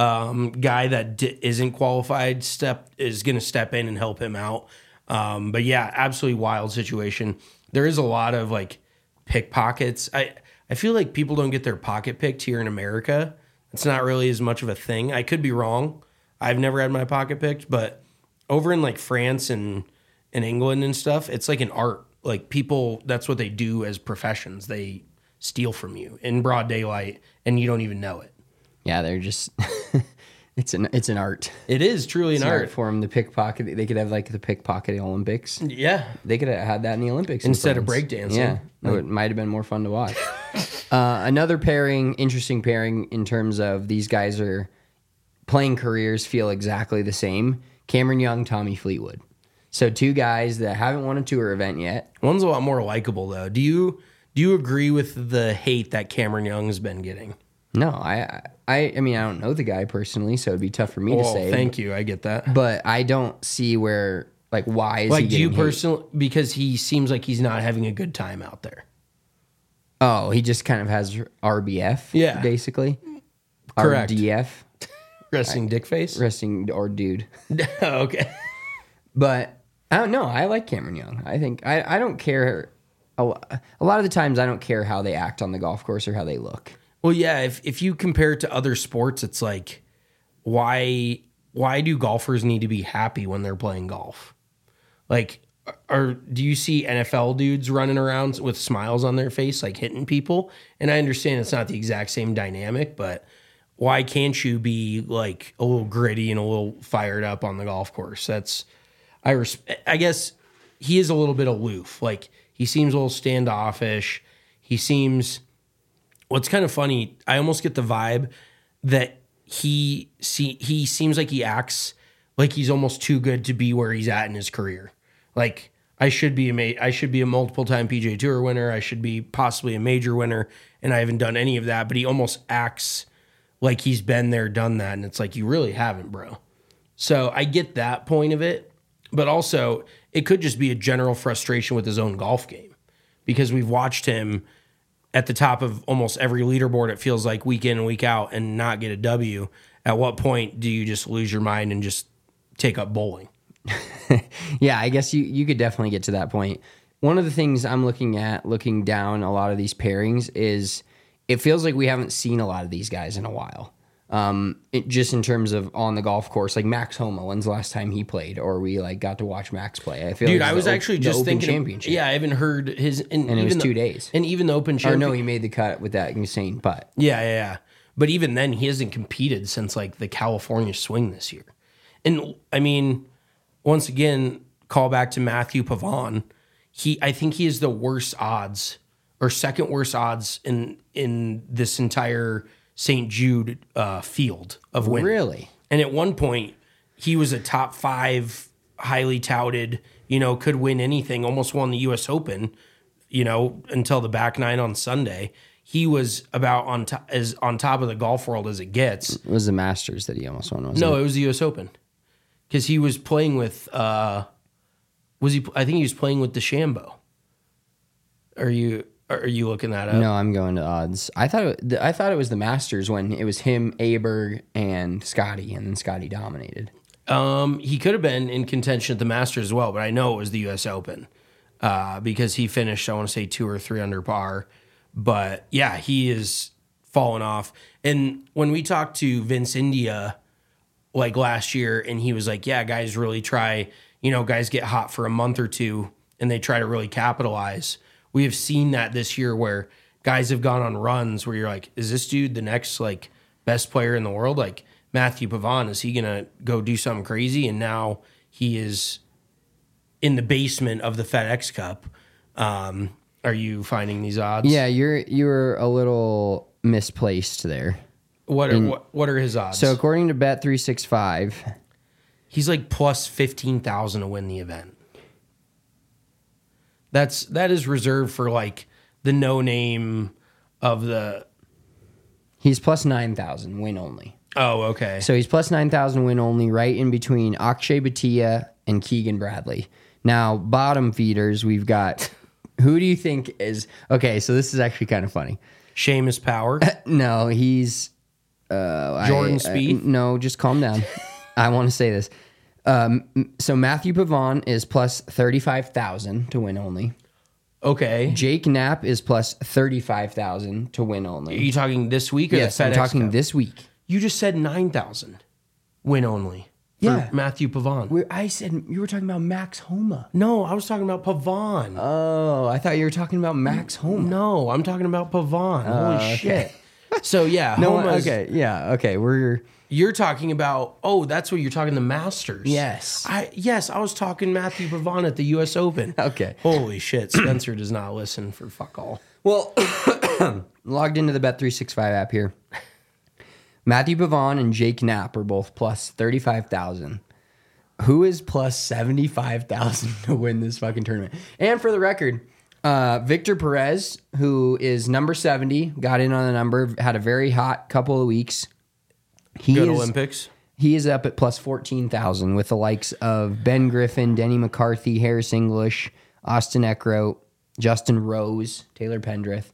Speaker 6: guy that isn't qualified is going to step in and help him out. But yeah, absolutely wild situation. There is a lot of like pickpockets. I feel like people don't get their pocket picked here in America. It's not really as much of a thing. I could be wrong. I've never had my pocket picked, but over in like France and England and stuff, it's like an art. Like people, that's what they do as professions. They steal from you in broad daylight and you don't even know it.
Speaker 5: Yeah, they're just it's an art.
Speaker 6: It is truly an art
Speaker 5: for them. The pickpocket, they could have like the pickpocket Olympics.
Speaker 6: Yeah,
Speaker 5: they could have had that in the Olympics
Speaker 6: instead of breakdancing.
Speaker 5: Yeah, it might have been more fun to watch. Another interesting pairing in terms of these guys are playing careers feel exactly the same. Cameron Young, Tommy Fleetwood. So 2 guys that haven't won a tour event yet.
Speaker 6: One's a lot more likable though. Do you agree with the hate that Cameron Young's been getting?
Speaker 5: No, I mean, I don't know the guy personally, so it'd be tough for me to say.
Speaker 6: Thank you, I get that.
Speaker 5: But I don't see why is he getting
Speaker 6: do you personally, because he seems like he's not having a good time out there.
Speaker 5: Oh, he just kind of has RBF,
Speaker 6: Yeah.
Speaker 5: basically.
Speaker 6: Correct.
Speaker 5: RDF,
Speaker 6: Resting dick face?
Speaker 5: resting or dude.
Speaker 6: Okay.
Speaker 5: But I don't know. I like Cameron Young. I think I don't care. A lot of the times, I don't care how they act on the golf course or how they look.
Speaker 6: Well, yeah, if you compare it to other sports, it's like, why do golfers need to be happy when they're playing golf? Like, do you see NFL dudes running around with smiles on their face, like hitting people? And I understand it's not the exact same dynamic, but why can't you be like a little gritty and a little fired up on the golf course? I guess he is a little bit aloof. Like, he seems a little standoffish. What's kind of funny, I almost get the vibe that he seems like he acts like he's almost too good to be where he's at in his career. Like, I should be a multiple time PGA Tour winner. I should be possibly a major winner, and I haven't done any of that. But he almost acts like he's been there, done that, and it's like, you really haven't, bro. So I get that point of it, but also it could just be a general frustration with his own golf game, because we've watched him at the top of almost every leaderboard, it feels like, week in and week out, and not get a W. At what point do you just lose your mind and just take up bowling?
Speaker 5: Yeah, I guess you could definitely get to that point. One of the things I'm looking down a lot of these pairings is it feels like we haven't seen a lot of these guys in a while. Just in terms of on the golf course, like Max Homa, when's the last time he played, or we like got to watch Max play? I feel
Speaker 6: Dude,
Speaker 5: like
Speaker 6: I was actually just thinking,
Speaker 5: championship.
Speaker 6: yeah, I haven't heard his,
Speaker 5: and it was 2 days,
Speaker 6: and even the Open
Speaker 5: Or
Speaker 6: Championship.
Speaker 5: no, he made the cut with that insane putt.
Speaker 6: Yeah. But even then, he hasn't competed since like the California Swing this year. And I mean, once again, call back to Matthew Pavon. I think he is the worst odds, or second worst odds in this entire St. Jude field of winning.
Speaker 5: Really?
Speaker 6: And at one point, he was a top 5, highly touted, could win anything, almost won the U.S. Open, until the back nine on Sunday. He was about on top of the golf world as it gets.
Speaker 5: It was the Masters that he almost won, wasn't
Speaker 6: No,
Speaker 5: it?
Speaker 6: it was the U.S. Open. Because he was playing with, I think he was playing with DeChambeau. Are you looking that up?
Speaker 5: No, I'm going to odds. I thought it was the Masters when it was him, Aberg, and Scotty, and then Scotty dominated.
Speaker 6: He could have been in contention at the Masters as well, but I know it was the U.S. Open because he finished, I want to say, 2 or 3 under par. But yeah, he is fallen off. And when we talked to Vince India like last year, and he was like, yeah, guys really try, guys get hot for a month or two and they try to really capitalize. We have seen that this year where guys have gone on runs where you're like, is this dude the next like best player in the world? Like Matthew Pavon, is he going to go do something crazy? And now he is in the basement of the FedEx Cup. Are you finding these odds?
Speaker 5: Yeah, you're a little misplaced there.
Speaker 6: What are his odds?
Speaker 5: So according to Bet365,
Speaker 6: he's like plus 15,000 to win the event. That is reserved for like the no name of the.
Speaker 5: He's plus 9,000 win only.
Speaker 6: Oh, okay.
Speaker 5: So he's plus 9,000 win only, right in between Akshay Bhatia and Keegan Bradley. Now, bottom feeders, we've got. Who do you think is okay? So this is actually kind of funny.
Speaker 6: Seamus Power.
Speaker 5: No, he's
Speaker 6: Jordan Spieth.
Speaker 5: No, just calm down. I want to say this. So Matthew Pavon is plus 35,000 to win only.
Speaker 6: Okay.
Speaker 5: Jake Knapp is plus 35,000 to win only.
Speaker 6: Are you talking this week or
Speaker 5: yes,
Speaker 6: the FedEx
Speaker 5: I'm talking
Speaker 6: Cup?
Speaker 5: this week.
Speaker 6: You just said 9,000 win only. For
Speaker 5: Yeah.
Speaker 6: Matthew Pavon.
Speaker 5: I said you were talking about Max Homa.
Speaker 6: No, I was talking about Pavon.
Speaker 5: Oh, I thought you were talking about Max Homa.
Speaker 6: No, I'm talking about Pavon. Holy
Speaker 5: okay.
Speaker 6: shit. So yeah,
Speaker 5: No,
Speaker 6: Homa's,
Speaker 5: okay.
Speaker 6: You're talking about, that's what you're talking, the Masters.
Speaker 5: Yes.
Speaker 6: I was talking Matthew Pavon at the U.S. Open.
Speaker 5: Okay.
Speaker 6: Holy shit, Spencer does not listen for fuck all.
Speaker 5: Well, logged into the Bet365 app here. Matthew Pavon and Jake Knapp are both plus 35,000. Who is plus 75,000 to win this fucking tournament? And for the record, Victor Perez, who is number 70, got in on the number, had a very hot couple of weeks.
Speaker 6: Good Olympics.
Speaker 5: He is up at plus 14,000 with the likes of Ben Griffin, Denny McCarthy, Harris English, Austin Eckroat, Justin Rose, Taylor Pendrith,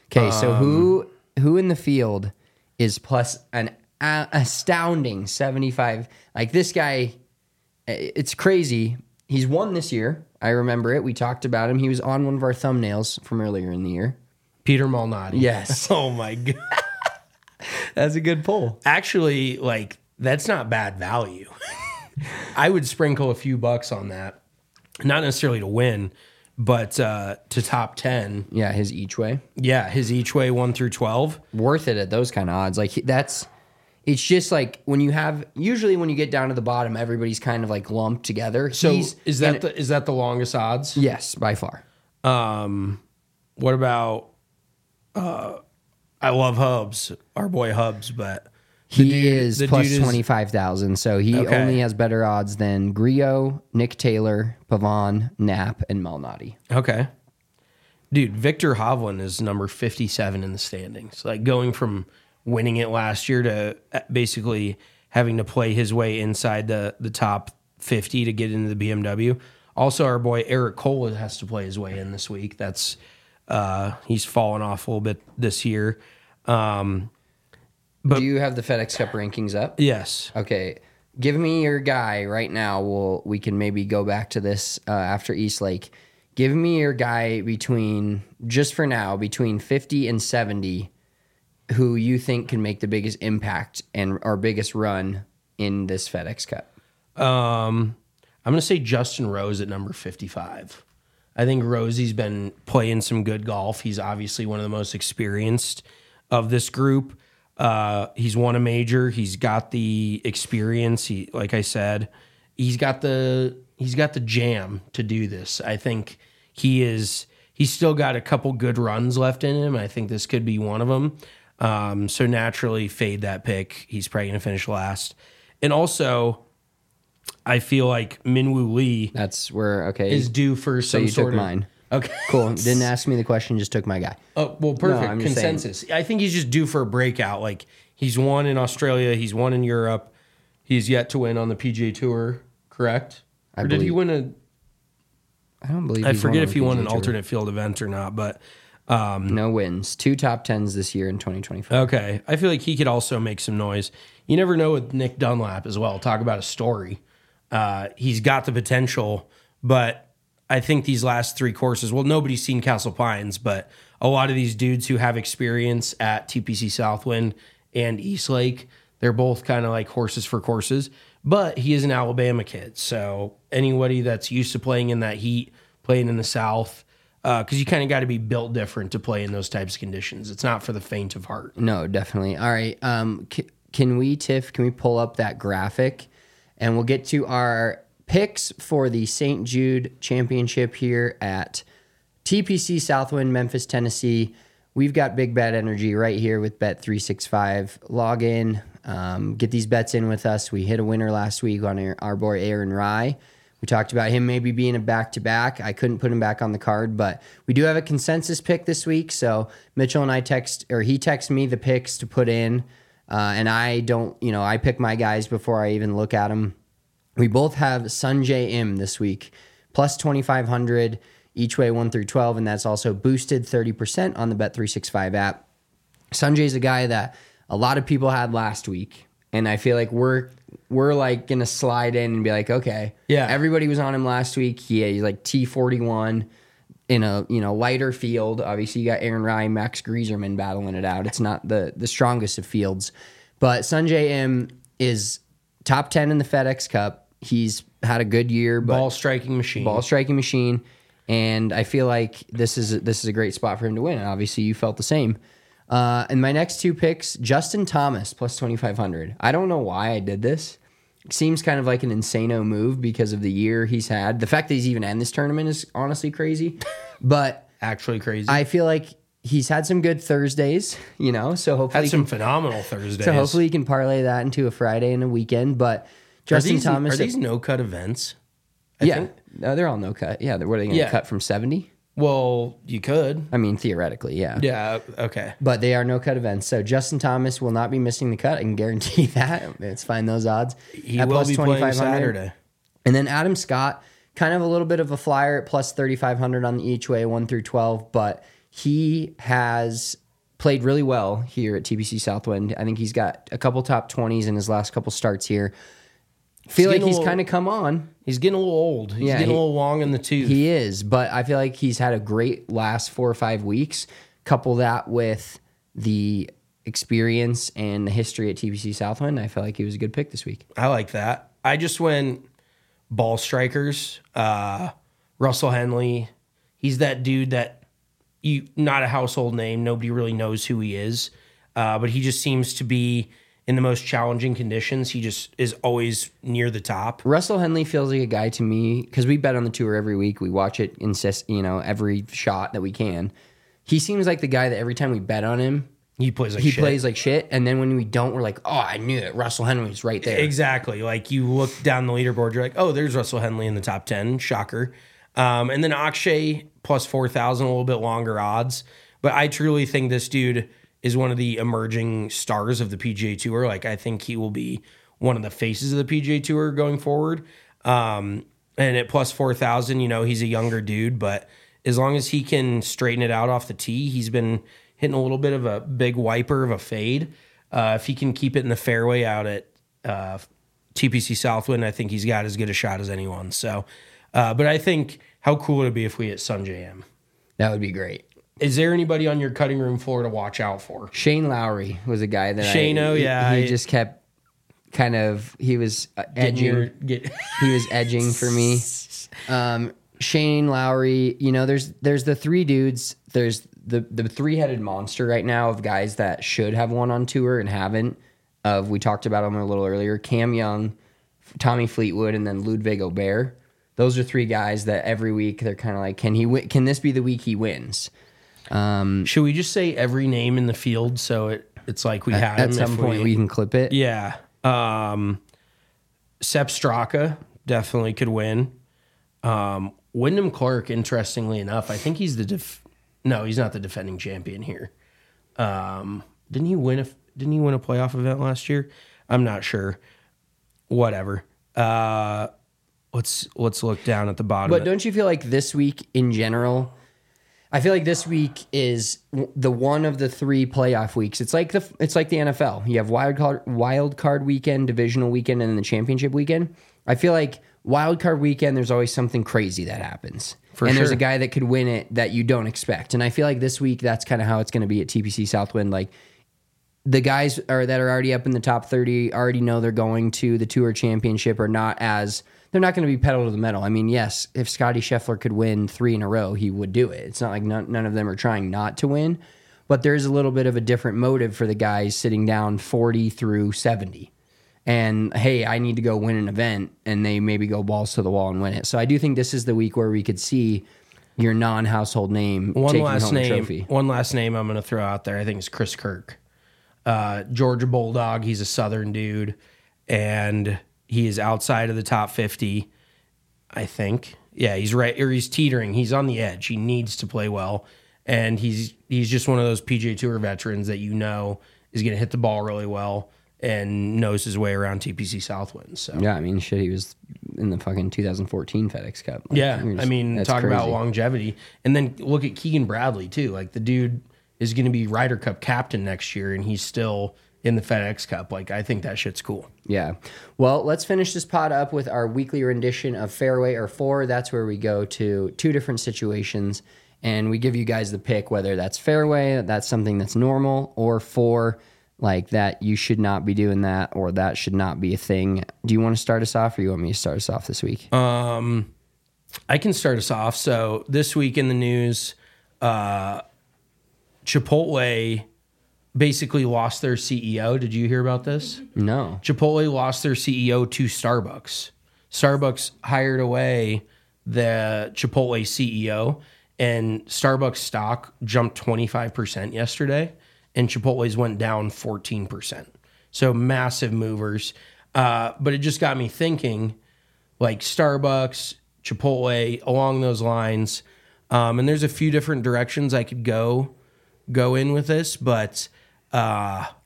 Speaker 5: Okay, so who in the field is plus an astounding 75? Like this guy, it's crazy. He's won this year. I remember it. We talked about him. He was on one of our thumbnails from earlier in the year.
Speaker 6: Peter Malnati.
Speaker 5: Yes.
Speaker 6: Oh my God.
Speaker 5: That's a good pull.
Speaker 6: Actually, like, that's not bad value. I would sprinkle a few bucks on that. Not necessarily to win, but to top 10.
Speaker 5: Yeah, his each way.
Speaker 6: Yeah, his each way 1 through 12.
Speaker 5: Worth it at those kind of odds. Like it's just like when you have, usually when you get down to the bottom, everybody's kind of like lumped together.
Speaker 6: So is that the longest odds?
Speaker 5: Yes, by far.
Speaker 6: What about I love Hubs, our boy Hubs, but
Speaker 5: he is plus 25,000. So he only has better odds than Griot, Nick Taylor, Pavon, Knapp, and Malnati.
Speaker 6: Okay. Dude, Victor Hovland is number 57 in the standings. Like going from winning it last year to basically having to play his way inside the top 50 to get into the BMW. Also, our boy Eric Cole has to play his way in this week. That's he's fallen off a little bit this year.
Speaker 5: Do you have the FedEx Cup rankings up?
Speaker 6: Yes.
Speaker 5: Okay. Give me your guy right now. We can maybe go back to this after East Lake. Give me your guy just for now, between 50 and 70, who you think can make the biggest impact and our biggest run in this FedEx Cup.
Speaker 6: I'm going to say Justin Rose at number 55. I think Rosie's been playing some good golf. He's obviously one of the most experienced of this group. He's won a major. He's got the experience. Like I said, he's got the jam to do this. I think he's still got a couple good runs left in him. I think this could be one of them. So naturally fade that pick. He's probably going to finish last. And also, I feel like Minwoo Lee
Speaker 5: That's where,
Speaker 6: is due for
Speaker 5: So
Speaker 6: some
Speaker 5: you
Speaker 6: sort
Speaker 5: took
Speaker 6: of
Speaker 5: mine.
Speaker 6: Okay.
Speaker 5: Cool. Didn't ask me the question, just took my guy.
Speaker 6: Oh, well, perfect.
Speaker 5: No, I'm just
Speaker 6: Consensus. I think he's just due for a breakout. Like, he's won in Australia. He's won in Europe. He's yet to win on the PGA Tour, correct? Or did he win
Speaker 5: I don't believe
Speaker 6: I
Speaker 5: he's
Speaker 6: forget
Speaker 5: won
Speaker 6: if
Speaker 5: on
Speaker 6: he
Speaker 5: the
Speaker 6: won
Speaker 5: PGA
Speaker 6: an
Speaker 5: Tour.
Speaker 6: alternate field event or not, but
Speaker 5: No wins. 2 top 10s this year in 2025.
Speaker 6: okay. I feel like he could also make some noise. You never know with Nick Dunlap as well. Talk about a story. He's got the potential, but I think these last 3 courses, well, nobody's seen Castle Pines, but a lot of these dudes who have experience at TPC Southwind and East Lake, they're both kind of like horses for courses, but he is an Alabama kid. So anybody that's used to playing in that heat, playing in the South, because you kind of got to be built different to play in those types of conditions. It's not for the faint of heart.
Speaker 5: No, definitely. All right. Can we pull up that graphic and we'll get to our picks for the St. Jude Championship here at TPC Southwind, Memphis, Tennessee. We've got Big Bet Energy right here with Bet365. Log in, get these bets in with us. We hit a winner last week on our boy Aaron Rye. We talked about him maybe being a back-to-back. I couldn't put him back on the card, but we do have a consensus pick this week. So Mitchell and he texted me the picks to put in, and I pick my guys before I even look at them. We both have Sanjay Im this week, plus 2,500 each way 1 through 12, and that's also boosted 30% on the Bet365 app. Sanjay's a guy that a lot of people had last week, and I feel like we're like gonna slide in and be like, okay,
Speaker 6: yeah,
Speaker 5: everybody was on him last week. He's like T41 in a lighter field. Obviously, you got Aaron Rye, Max Grieserman battling it out. It's not the strongest of fields, but Sanjay Im is top 10 in the FedEx Cup. He's had a good year, but
Speaker 6: ball striking machine. And I feel like this is a great spot for him to win. And obviously, you felt the same. And my next 2 picks, Justin Thomas plus 2,500. I don't know why I did this. It seems kind of like an insano move because of the year he's had. The fact that he's even in this tournament is honestly crazy, but actually crazy.
Speaker 5: I feel like he's had some good Thursdays, so hopefully
Speaker 6: had some phenomenal Thursdays.
Speaker 5: So hopefully he can parlay that into a Friday and a weekend. But Justin Thomas,
Speaker 6: are these no cut events?
Speaker 5: I think? No, they're all no cut. Yeah, what are they going to cut from 70?
Speaker 6: Well, you could.
Speaker 5: I mean, theoretically, yeah.
Speaker 6: Yeah, okay.
Speaker 5: But they are no cut events. So Justin Thomas will not be missing the cut. I can guarantee that. Let's find those odds.
Speaker 6: He will be playing Saturday.
Speaker 5: And then Adam Scott, kind of a little bit of a flyer at plus 3,500 on the each way 1 through 12, but he has played really well here at TPC Southwind. I think he's got a couple top 20s in his last couple starts here. Feel like he's kind of come on.
Speaker 6: He's getting a little old. He's getting a little long in the tooth.
Speaker 5: He is, but I feel like he's had a great last 4 or 5 weeks. Couple that with the experience and the history at TPC Southwind, I felt like he was a good pick this week.
Speaker 6: I like that. I just went ball strikers. Russell Henley. He's that dude that not a household name. Nobody really knows who he is. But he just seems to be in the most challenging conditions. He just is always near the top.
Speaker 5: Russell Henley feels like a guy to me, because we bet on the tour every week. We watch it, every shot that we can. He seems like the guy that every time we bet on him,
Speaker 6: he plays like shit.
Speaker 5: And then when we don't, we're like, oh, I knew it. Russell Henley's right there.
Speaker 6: Exactly. Like you look down the leaderboard, you're like, oh, there's Russell Henley in the top 10. Shocker. And then Akshay plus 4,000, a little bit longer odds. But I truly think this dude is one of the emerging stars of the PGA Tour. Like, I think he will be one of the faces of the PGA Tour going forward. And at plus 4,000, he's a younger dude, but as long as he can straighten it out off the tee, he's been hitting a little bit of a big wiper of a fade. If he can keep it in the fairway out at TPC Southwind, I think he's got as good a shot as anyone. So, but I think how cool would it be if we hit Sungjae Im?
Speaker 5: That would be great.
Speaker 6: Is there anybody on your cutting room floor to watch out for?
Speaker 5: Shane Lowry was a guy that
Speaker 6: he
Speaker 5: just kept kind of, he was edging. He was edging for me. Shane Lowry, there's the three dudes. There's the three-headed monster right now of guys that should have won on tour and haven't. We talked about them a little earlier. Cam Young, Tommy Fleetwood, and then Ludwig Aubert. Those are three guys that every week they're kind of like, can he win? Can this be the week he wins?
Speaker 6: Should we just say every name in the field so it's like we had
Speaker 5: at some point we can clip it?
Speaker 6: Yeah. Sepp Straka definitely could win. Wyndham Clark, interestingly enough, I think he's no, he's not the defending champion here. Didn't he win a playoff event last year? I'm not sure. Whatever. Let's look down at the bottom.
Speaker 5: But don't you feel like this week in general? I feel like this week is the one of the 3 playoff weeks. It's like the NFL. You have wild card weekend, divisional weekend, and then the championship weekend. I feel like wild card weekend, there's always something crazy that happens. There's a guy that could win it that you don't expect. And I feel like this week, that's kind of how it's going to be at TPC Southwind. Like the guys that are already up in the top 30 already know they're going to the Tour Championship they're not going to be pedal to the metal. I mean, yes, if Scotty Scheffler could win 3 in a row, he would do it. It's not like none of them are trying not to win, but there's a little bit of a different motive for the guys sitting down 40 through 70. And, hey, I need to go win an event, and they maybe go balls to the wall and win it. So I do think this is the week where we could see your non-household name taking home a trophy.
Speaker 6: One last name I'm going to throw out there, I think, is Chris Kirk. Georgia Bulldog, he's a Southern dude, and he is outside of the top 50, I think. Yeah, he's right, or he's teetering. He's on the edge. He needs to play well, and he's just one of those PGA Tour veterans that is going to hit the ball really well and knows his way around TPC Southwind. So
Speaker 5: yeah, I mean, shit, he was in the fucking 2014 FedEx Cup.
Speaker 6: Like, yeah, I mean, talk about longevity. And then look at Keegan Bradley, too. Like, the dude is going to be Ryder Cup captain next year, and he's still in the FedEx Cup. Like, I think that shit's cool.
Speaker 5: Yeah. Well, let's finish this pod up with our weekly rendition of Fairway or 4. That's where we go to 2 different situations, and we give you guys the pick, whether that's fairway, that's something that's normal, or 4, like that you should not be doing that, or that should not be a thing. Do you want to start us off, or you want me to start us off this week?
Speaker 6: I can start us off. So this week in the news, Chipotle basically lost their CEO. Did you hear about this?
Speaker 5: No.
Speaker 6: Chipotle lost their CEO to Starbucks. Starbucks hired away the Chipotle CEO, and Starbucks stock jumped 25% yesterday, and Chipotle's went down 14%. So massive movers. But it just got me thinking, like Starbucks, Chipotle, along those lines. And there's a few different directions I could go in with this, but